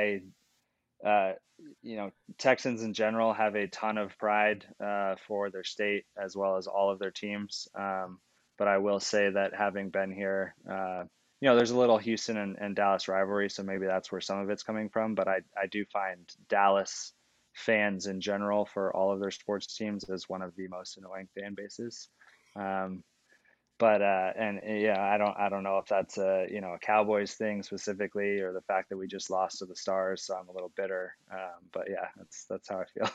uh, Texans in general have a ton of pride for their state as well as all of their teams. But I will say that having been here, there's a little Houston and Dallas rivalry, so maybe that's where some of it's coming from. But I do find Dallas fans in general for all of their sports teams as one of the most annoying fan bases. Um, but and yeah, I don't know if that's a Cowboys thing specifically or the fact that we just lost to the Stars, so I'm a little bitter. But yeah, that's how I feel.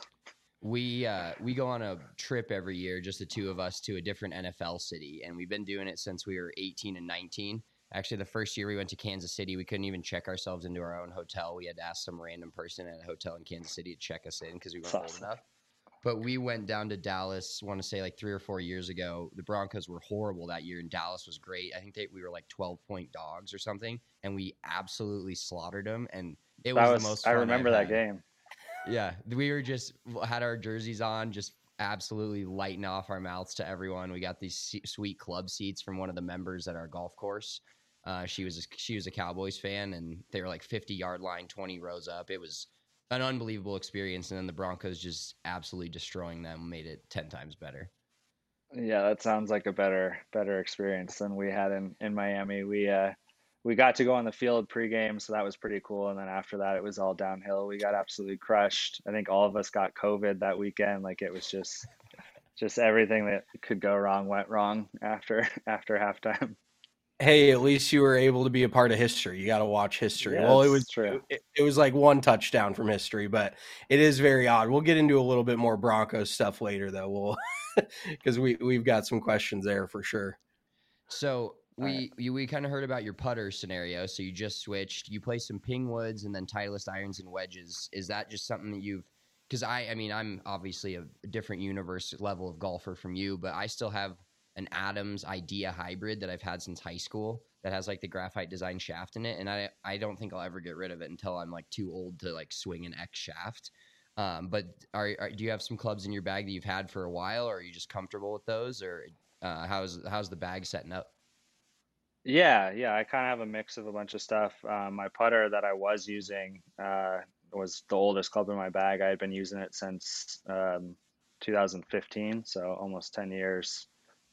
We go on a trip every year, just the two of us, to a different NFL city, and we've been doing it since we were 18 and 19. Actually, the first year we went to Kansas City, we couldn't even check ourselves into our own hotel. We had to ask some random person at a hotel in Kansas City to check us in because we weren't old enough. But we went down to Dallas, I want to say like 3 or 4 years ago. The Broncos were horrible that year, and Dallas was great. I think we were like 12-point dogs or something, and we absolutely slaughtered them. And it was the most fun I remember I've that had. game. Yeah, we were just had our jerseys on, just absolutely lighting off our mouths to everyone. We got these sweet club seats from one of the members at our golf course. She was a Cowboys fan, and they were like 50-yard line, 20 rows up. It was an unbelievable experience, and then the Broncos just absolutely destroying them made it 10 times better. Yeah, that sounds like a better experience than we had in Miami. We got to go on the field pregame, so that was pretty cool. And then after that, it was all downhill. We got absolutely crushed. I think all of us got COVID that weekend. Like it was just everything that could go wrong went wrong after halftime. Hey, at least you were able to be a part of history. You got to watch history. Yeah, Well, it's true. it was like one touchdown from history, but it is very odd. We'll get into a little bit more Broncos stuff later, though. We'll because we've got some questions there for sure. So we kind of heard about your putter scenario. So you just switched. You play some ping woods and then Titleist irons and wedges. Is that just something that you've? Because I mean, I'm obviously a different universe level of golfer from you, but I still have an Adams Idea hybrid that I've had since high school that has like the graphite design shaft in it, and I don't think I'll ever get rid of it until I'm like too old to like swing an X shaft. But do you have some clubs in your bag that you've had for a while, or are you just comfortable with those, or how's the bag setting up? Yeah. I kind of have a mix of a bunch of stuff. My putter that I was using was the oldest club in my bag. I had been using it since 2015, so almost 10 years.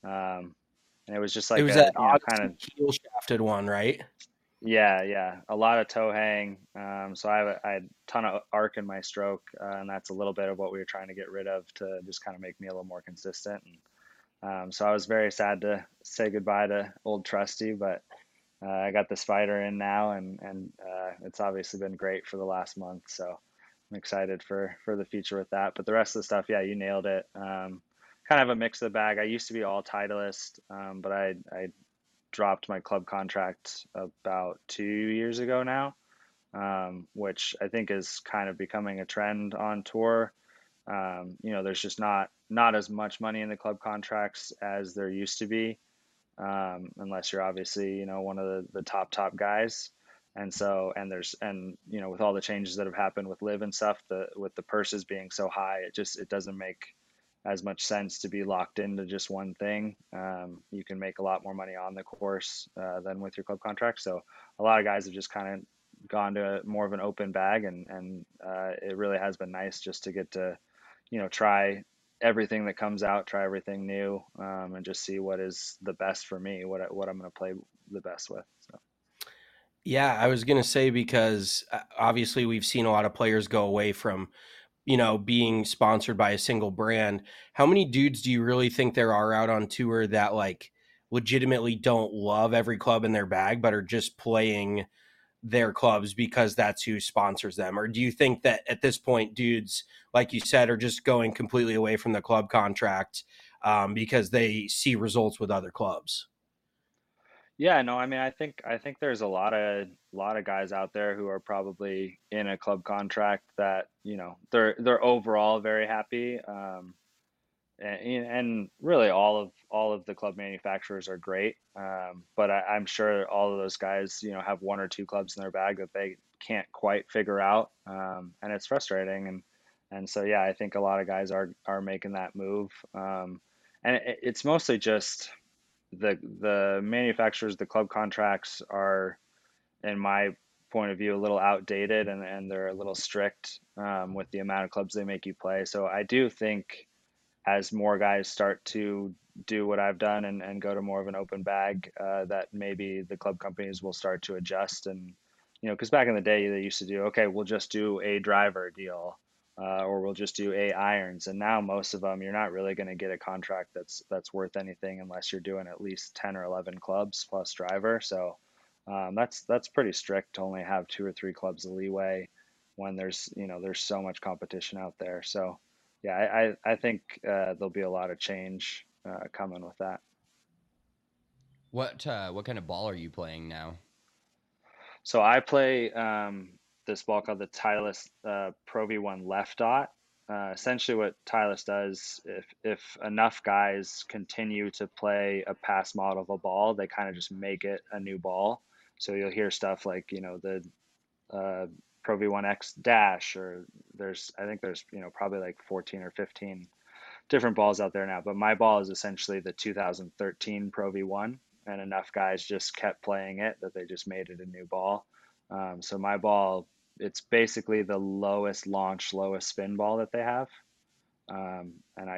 And it was just It like was a that kind of heel shafted one, right? yeah, a lot of toe hang. So I had a ton of arc in my stroke, and that's a little bit of what we were trying to get rid of to just kind of make me a little more consistent. And so I was very sad to say goodbye to old Trusty, but I got the Spider in now, and it's obviously been great for the last month. So I'm excited for the future with that. But the rest of the stuff, yeah, you nailed it. Kind of a mix of the bag. I used to be all Titleist, but I dropped my club contract about 2 years ago now, which I think is kind of becoming a trend on tour. There's just not as much money in the club contracts as there used to be, unless you're obviously one of the top guys. And so with all the changes that have happened with live and stuff, with the purses being so high, it doesn't make as much sense to be locked into just one thing. You can make a lot more money on the course than with your club contract. So a lot of guys have just kind of gone to more of an open bag, and it really has been nice just to get to try everything that comes out, try everything new, and just see what is the best for me, what I'm going to play the best with. So. Yeah, I was going to say, because obviously we've seen a lot of players go away from, being sponsored by a single brand. How many dudes do you really think there are out on tour that like legitimately don't love every club in their bag, but are just playing their clubs because that's who sponsors them? Or do you think that at this point, dudes, like you said, are just going completely away from the club contract because they see results with other clubs? Yeah, no, I mean, I think there's a lot of guys out there who are probably in a club contract that they're overall very happy. And really all of the club manufacturers are great, but I'm sure all of those guys have one or two clubs in their bag that they can't quite figure out, and it's frustrating. And so yeah, I think a lot of guys are making that move, and it's mostly just the manufacturers. The club contracts are, in my point of view, a little outdated, and they're a little strict with the amount of clubs they make you play. So I do think as more guys start to do what I've done, and go to more of an open bag, that maybe the club companies will start to adjust. And because back in the day they used to do, okay, we'll just do a driver deal, or we'll just do a irons. And now most of them, you're not really going to get a contract that's worth anything unless you're doing at least 10 or 11 clubs plus driver. So that's pretty strict to only have two or three clubs of leeway when there's so much competition out there. So yeah, I think there'll be a lot of change coming with that. What kind of ball are you playing now? So I play this ball called the Titleist Pro V1 Left Dot. Essentially, what Titleist does, if enough guys continue to play a past model of a ball, they kind of just make it a new ball. So you'll hear stuff like the uh, Pro V1X Dash, or I think there's probably like 14 or 15 different balls out there now, but my ball is essentially the 2013 Pro V1, and enough guys just kept playing it that they just made it a new ball. So my ball, it's basically the lowest launch, lowest spin ball that they have, and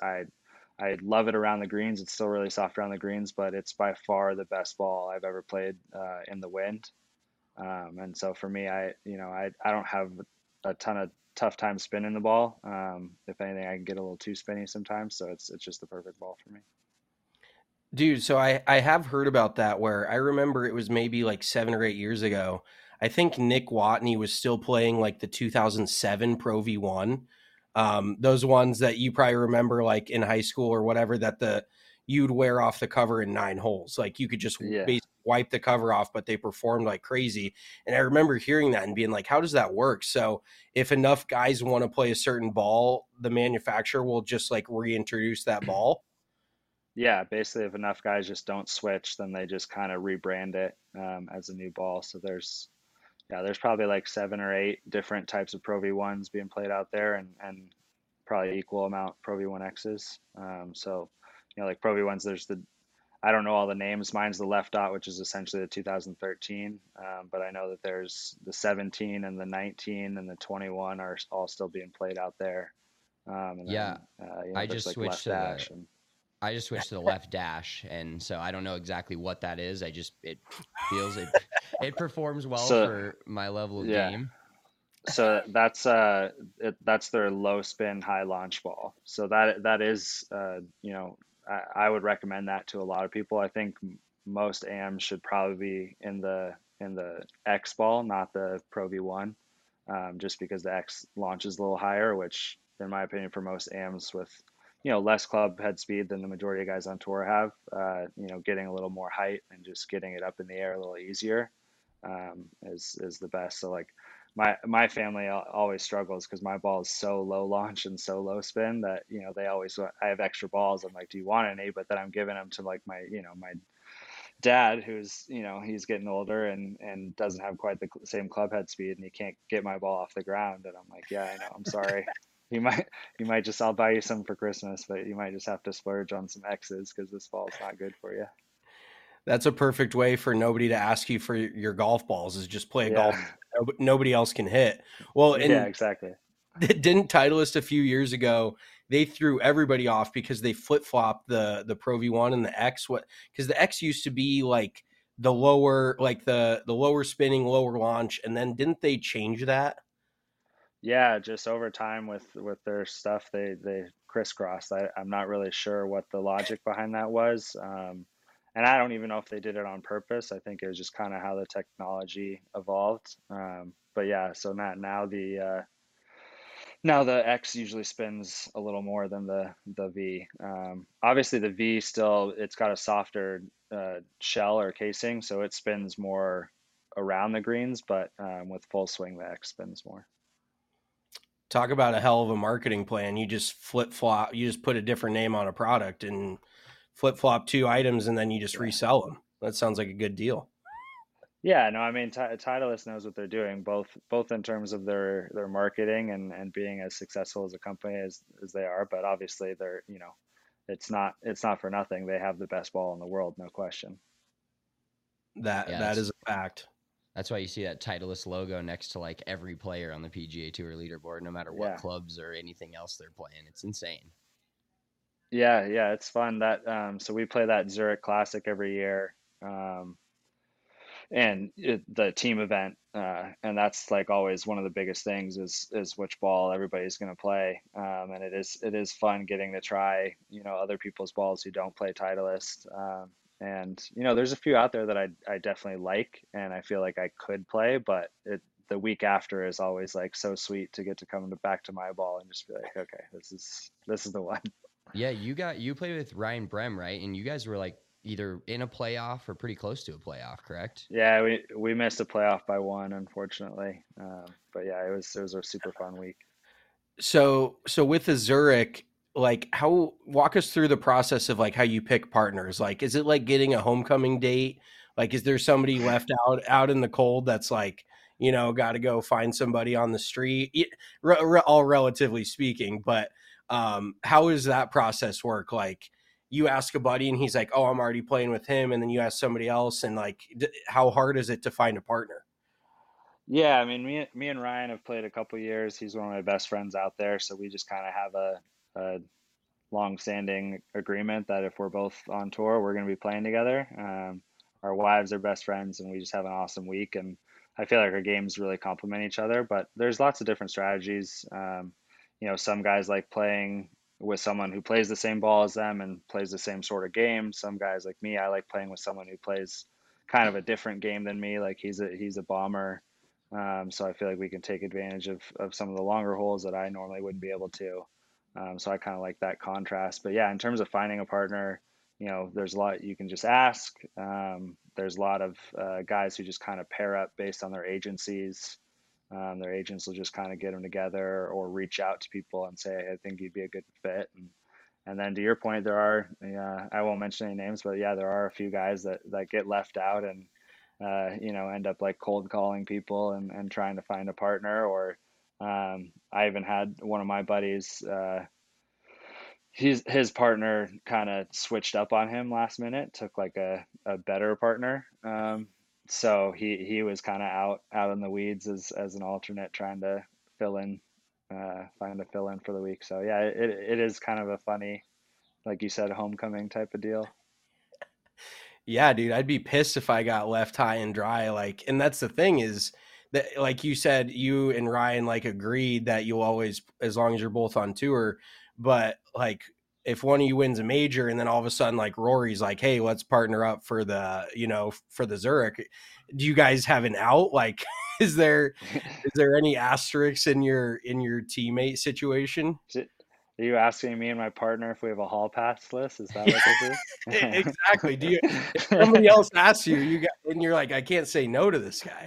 I love it around the greens. It's still really soft around the greens, but it's by far the best ball I've ever played in the wind. And so for me, I don't have a ton of tough time spinning the ball. If anything, I can get a little too spinny sometimes. So it's just the perfect ball for me. Dude, so I have heard about that, where I remember it was maybe like 7 or 8 years ago. I think Nick Watney was still playing like the 2007 Pro V1. Those ones that you probably remember like in high school or whatever, that you'd wear off the cover in 9 holes. Like you could just Yeah. basically wipe the cover off, but they performed like crazy. And I remember hearing that and being like, how does that work? So if enough guys want to play a certain ball, the manufacturer will just like reintroduce that ball. Yeah. Basically, if enough guys just don't switch, then they just kind of rebrand it as a new ball. So there's probably like 7 or 8 different types of Pro V1s being played out there, and probably equal amount Pro V1Xs. So, like Pro V1s, I don't know all the names. Mine's the Left Dot, which is essentially the 2013. But I know that there's the 17 and the 19 and the 21 are all still being played out there. And Yeah, then, I there's just like switched Left to the Dash. And I just switched to the left dash, and so I don't know exactly what that is. It feels it performs well so, for my level of yeah. game. So that's their low spin, high launch ball. So that is, I would recommend that to a lot of people. I think most AMs should probably be in the X ball, not the Pro V1, just because the X launches a little higher, which in my opinion for most AMs with less club head speed than the majority of guys on tour have, getting a little more height and just getting it up in the air a little easier, is the best. So like my family always struggles because my ball is so low launch and so low spin that they always I have extra balls. I'm like, do you want any? But then I'm giving them to like my dad, who's he's getting older and doesn't have quite the same club head speed, and he can't get my ball off the ground. And I'm like, yeah, I know, I'm sorry. You might just, I'll buy you some for Christmas, but you might just have to splurge on some X's because this ball's not good for you. That's a perfect way for nobody to ask you for your golf balls, is just play a golf nobody else can hit. Well, and yeah, exactly. Didn't Titleist a few years ago, they threw everybody off because they flip-flopped the Pro V1 and the X. Because the X used to be like the lower, like the lower spinning, lower launch, and then didn't they change that? Yeah, just over time with their stuff, they crisscrossed. I'm not really sure what the logic behind that was. And I don't even know if they did it on purpose. I think it was just kind of how the technology evolved. But yeah, so now the X usually spins a little more than the V. Obviously, the V still, it's got a softer shell or casing, so it spins more around the greens. But with full swing, the X spins more. Talk about a hell of a marketing plan. You just flip-flop, you just put a different name on a product and flip-flop two items, and then you just resell them. That sounds like a good deal. Yeah, no, I mean, Titleist knows what they're doing, both in terms of their marketing and being as successful as a company as they are. But obviously, they're it's not for nothing. They have the best ball in the world, no question. That is a fact. That's why you see that Titleist logo next to like every player on the PGA Tour leaderboard, no matter what clubs or anything else they're playing. It's insane. Yeah, it's fun. That so we play that Zurich Classic every year, and the team event, and that's like always one of the biggest things is which ball everybody's going to play, and it is fun getting to try other people's balls who don't play Titleist. And there's a few out there that I definitely like, and I feel like I could play, but the week after is always like so sweet to get to come back to my ball and just be like, okay, this is the one. Yeah, you played with Ryan Brehm, right? And you guys were like either in a playoff or pretty close to a playoff, correct? Yeah, we missed a playoff by one, unfortunately. But yeah, it was a super fun week. So with the Zurich, like walk us through the process of like how you pick partners. Like, is it like getting a homecoming date? Like, is there somebody left out in the cold that's like, got to go find somebody on the street, all relatively speaking, but how does that process work? Like, you ask a buddy and he's like, oh, I'm already playing with him. And then you ask somebody else, and like, how hard is it to find a partner? Yeah, I mean, me and Ryan have played a couple years. He's one of my best friends out there, so we just kind of have a long-standing agreement that if we're both on tour, we're going to be playing together. Our wives are best friends, and we just have an awesome week. And I feel like our games really complement each other. But there's lots of different strategies. Some guys like playing with someone who plays the same ball as them and plays the same sort of game. Some guys like me, I like playing with someone who plays kind of a different game than me. Like he's a bomber. So I feel like we can take advantage of some of the longer holes that I normally wouldn't be able to. So I kind of like that contrast. But yeah, in terms of finding a partner, there's a lot you can just ask. There's a lot of guys who just kind of pair up based on their agencies. Their agents will just kind of get them together or reach out to people and say, hey, I think you'd be a good fit. And then to your point, there are, I won't mention any names, but yeah, there are a few guys that get left out and, end up like cold calling people and trying to find a partner. Or I even had one of my buddies, his partner kind of switched up on him last minute, took like a better partner. So he was kind of out in the weeds as an alternate, trying to fill in, find a fill in for the week. So yeah, it is kind of a funny, like you said, homecoming type of deal. Yeah, dude, I'd be pissed if I got left high and dry. Like, and that's the thing is that, like you said, you and Ryan like agreed that you'll always, as long as you're both on tour. But like, if one of you wins a major and then all of a sudden like Rory's like, hey, let's partner up for the Zurich, do you guys have an out? Like, is there any asterisks in your teammate situation? Are you asking me and my partner if we have a hall pass list? Is that what this is? Exactly. If somebody else asks you, and you're like, I can't say no to this guy.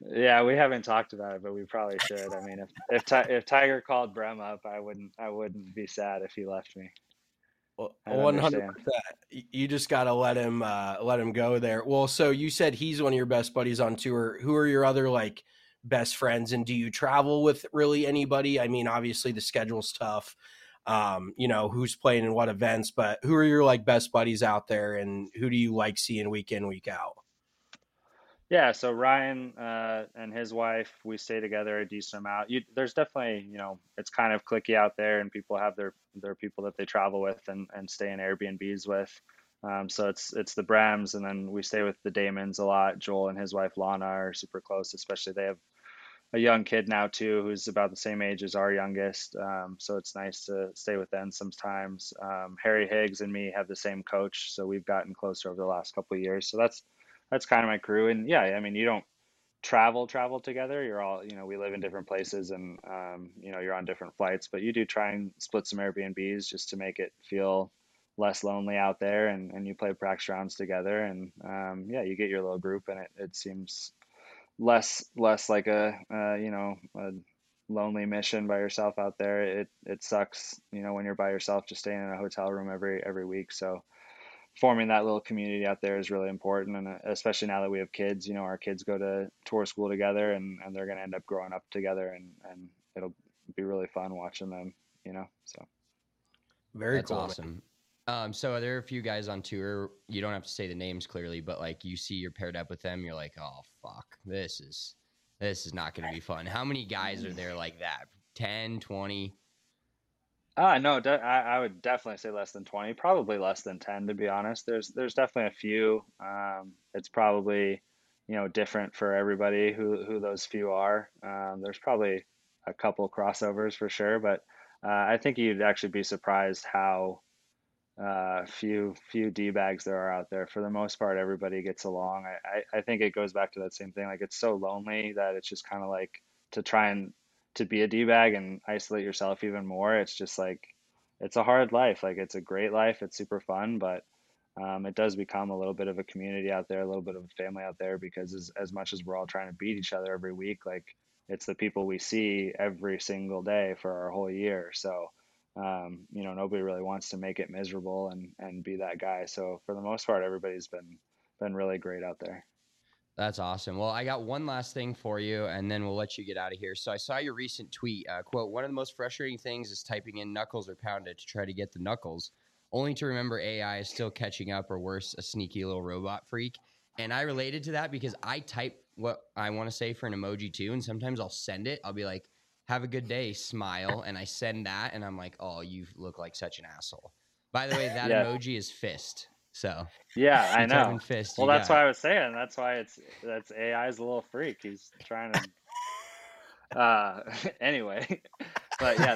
Yeah, we haven't talked about it, but we probably should. I mean, if Tiger called Brem up, I wouldn't be sad if he left me. I'd 100%. understand. You just got to let him go there. Well, so you said he's one of your best buddies on tour. Who are your other like best friends, and do you travel with really anybody? I mean, obviously the schedule's tough. Who's playing in what events, but who are your like best buddies out there, and who do you like seeing week in, week out? Yeah, so Ryan and his wife, we stay together a decent amount. There's definitely, it's kind of cliquey out there, and people have their people that they travel with and stay in Airbnbs with. So it's the Brams, and then we stay with the Damons a lot. Joel and his wife Lana are super close, especially they have a young kid now too, who's about the same age as our youngest. So it's nice to stay with them sometimes. Harry Higgs and me have the same coach, so we've gotten closer over the last couple of years. So that's kind of my crew. And yeah, I mean, you don't travel together. You're all, we live in different places, and you're on different flights, but you do try and split some Airbnbs just to make it feel less lonely out there. And you play practice rounds together, and yeah, you get your little group, and it seems less like a lonely mission by yourself out there. It sucks, when you're by yourself just staying in a hotel room every week. So forming that little community out there is really important, and especially now that we have kids, our kids go to tour school together, and they're going to end up growing up together, and it'll be really fun watching them, so Very That's cool. awesome. So there are a few guys on tour. You don't have to say the names clearly, but like you see you're paired up with them, you're like, oh fuck, this is not going to be fun. How many guys are there like that? 10, 20? No, I would definitely say less than 20, probably less than 10, to be honest. There's definitely a few. It's probably, different for everybody who those few are. There's probably a couple crossovers for sure, but I think you'd actually be surprised how few D-bags there are out there. For the most part, everybody gets along. I think it goes back to that same thing. Like, it's so lonely that it's just kind of like to try and to be a D-bag and isolate yourself even more. It's just like it's a hard life. Like, it's a great life. It's super fun, but it does become a little bit of a community out there, a little bit of a family out there, because as much as we're all trying to beat each other every week, like it's the people we see every single day for our whole year. So nobody really wants to make it miserable and be that guy. So for the most part, everybody's been really great out there. That's awesome. Well, I got one last thing for you, and then we'll let you get out of here. So I saw your recent tweet, quote, one of the most frustrating things is typing in knuckles or pound it to try to get the knuckles, only to remember AI is still catching up, or worse, a sneaky little robot freak. And I related to that because I type what I want to say for an emoji too, and sometimes I'll send it. I'll be like, have a good day, smile, and I send that, and I'm like, oh, you look like such an asshole. By the way, that Yeah. emoji is fist. So Yeah, I you type in know. fist, Well, you that's got why it. I was saying. That's why that's AI's a little freak. He's trying to anyway. But yeah,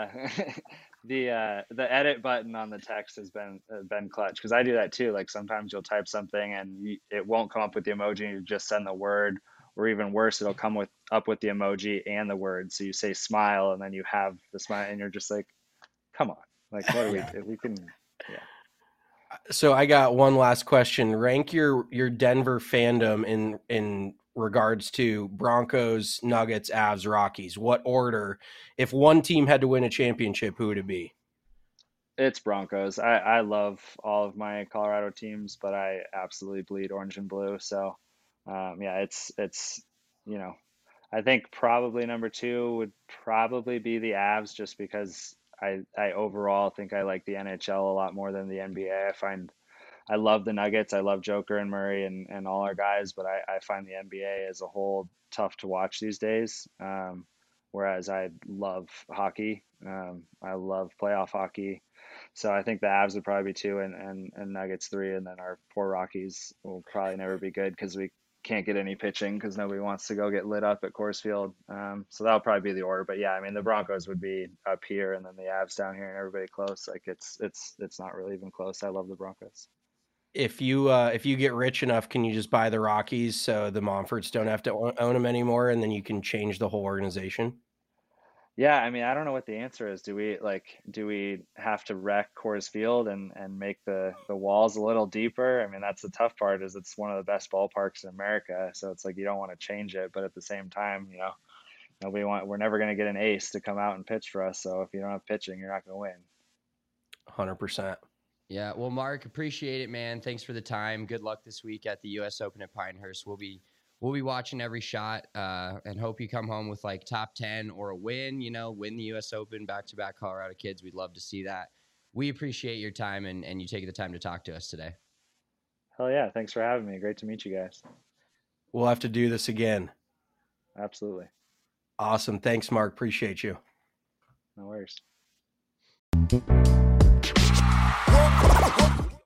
the edit button on the text has been clutch, because I do that too. Like, sometimes you'll type something and it won't come up with the emoji, and you just send the word, or even worse, it'll come up with the emoji and the word. So you say smile, and then you have the smile, and you're just like, come on, like, what are Yeah. we can, yeah. So I got one last question. Rank your Denver fandom in regards to Broncos, Nuggets, Avs, Rockies. What order? If one team had to win a championship, who would it be? It's Broncos. I love all of my Colorado teams, but I absolutely bleed orange and blue. So, yeah, it's you know, I think probably number two would probably be the Avs, just because I overall think I like the NHL a lot more than the NBA. I love the Nuggets. I love Joker and Murray and all our guys, but I find the NBA as a whole tough to watch these days. Whereas I love hockey. I love playoff hockey. So I think the Avs would probably be two, and Nuggets three, and then our poor Rockies will probably never be good because we can't get any pitching because nobody wants to go get lit up at Coors Field. So that'll probably be the order. But yeah, I mean, the Broncos would be up here, and then the Avs down here, and everybody close. Like, it's not really even close. I love the Broncos. If you get rich enough, can you just buy the Rockies so the Monforts don't have to own them anymore, and then you can change the whole organization? Yeah, I mean, I don't know what the answer is. Do we have to wreck Coors Field and make the walls a little deeper? I mean, that's the tough part, is it's one of the best ballparks in America. So it's like you don't want to change it, but at the same time, we're never going to get an ace to come out and pitch for us. So if you don't have pitching, you're not going to win. 100%. Yeah. Well, Mark, appreciate it, man. Thanks for the time. Good luck this week at the U.S. Open at Pinehurst. We'll be watching every shot and hope you come home with like top 10 or a win, win the U.S. Open, back-to-back Colorado kids. We'd love to see that. We appreciate your time and you taking the time to talk to us today. Hell yeah. Thanks for having me. Great to meet you guys. We'll have to do this again. Absolutely. Awesome. Thanks, Mark. Appreciate you. No worries.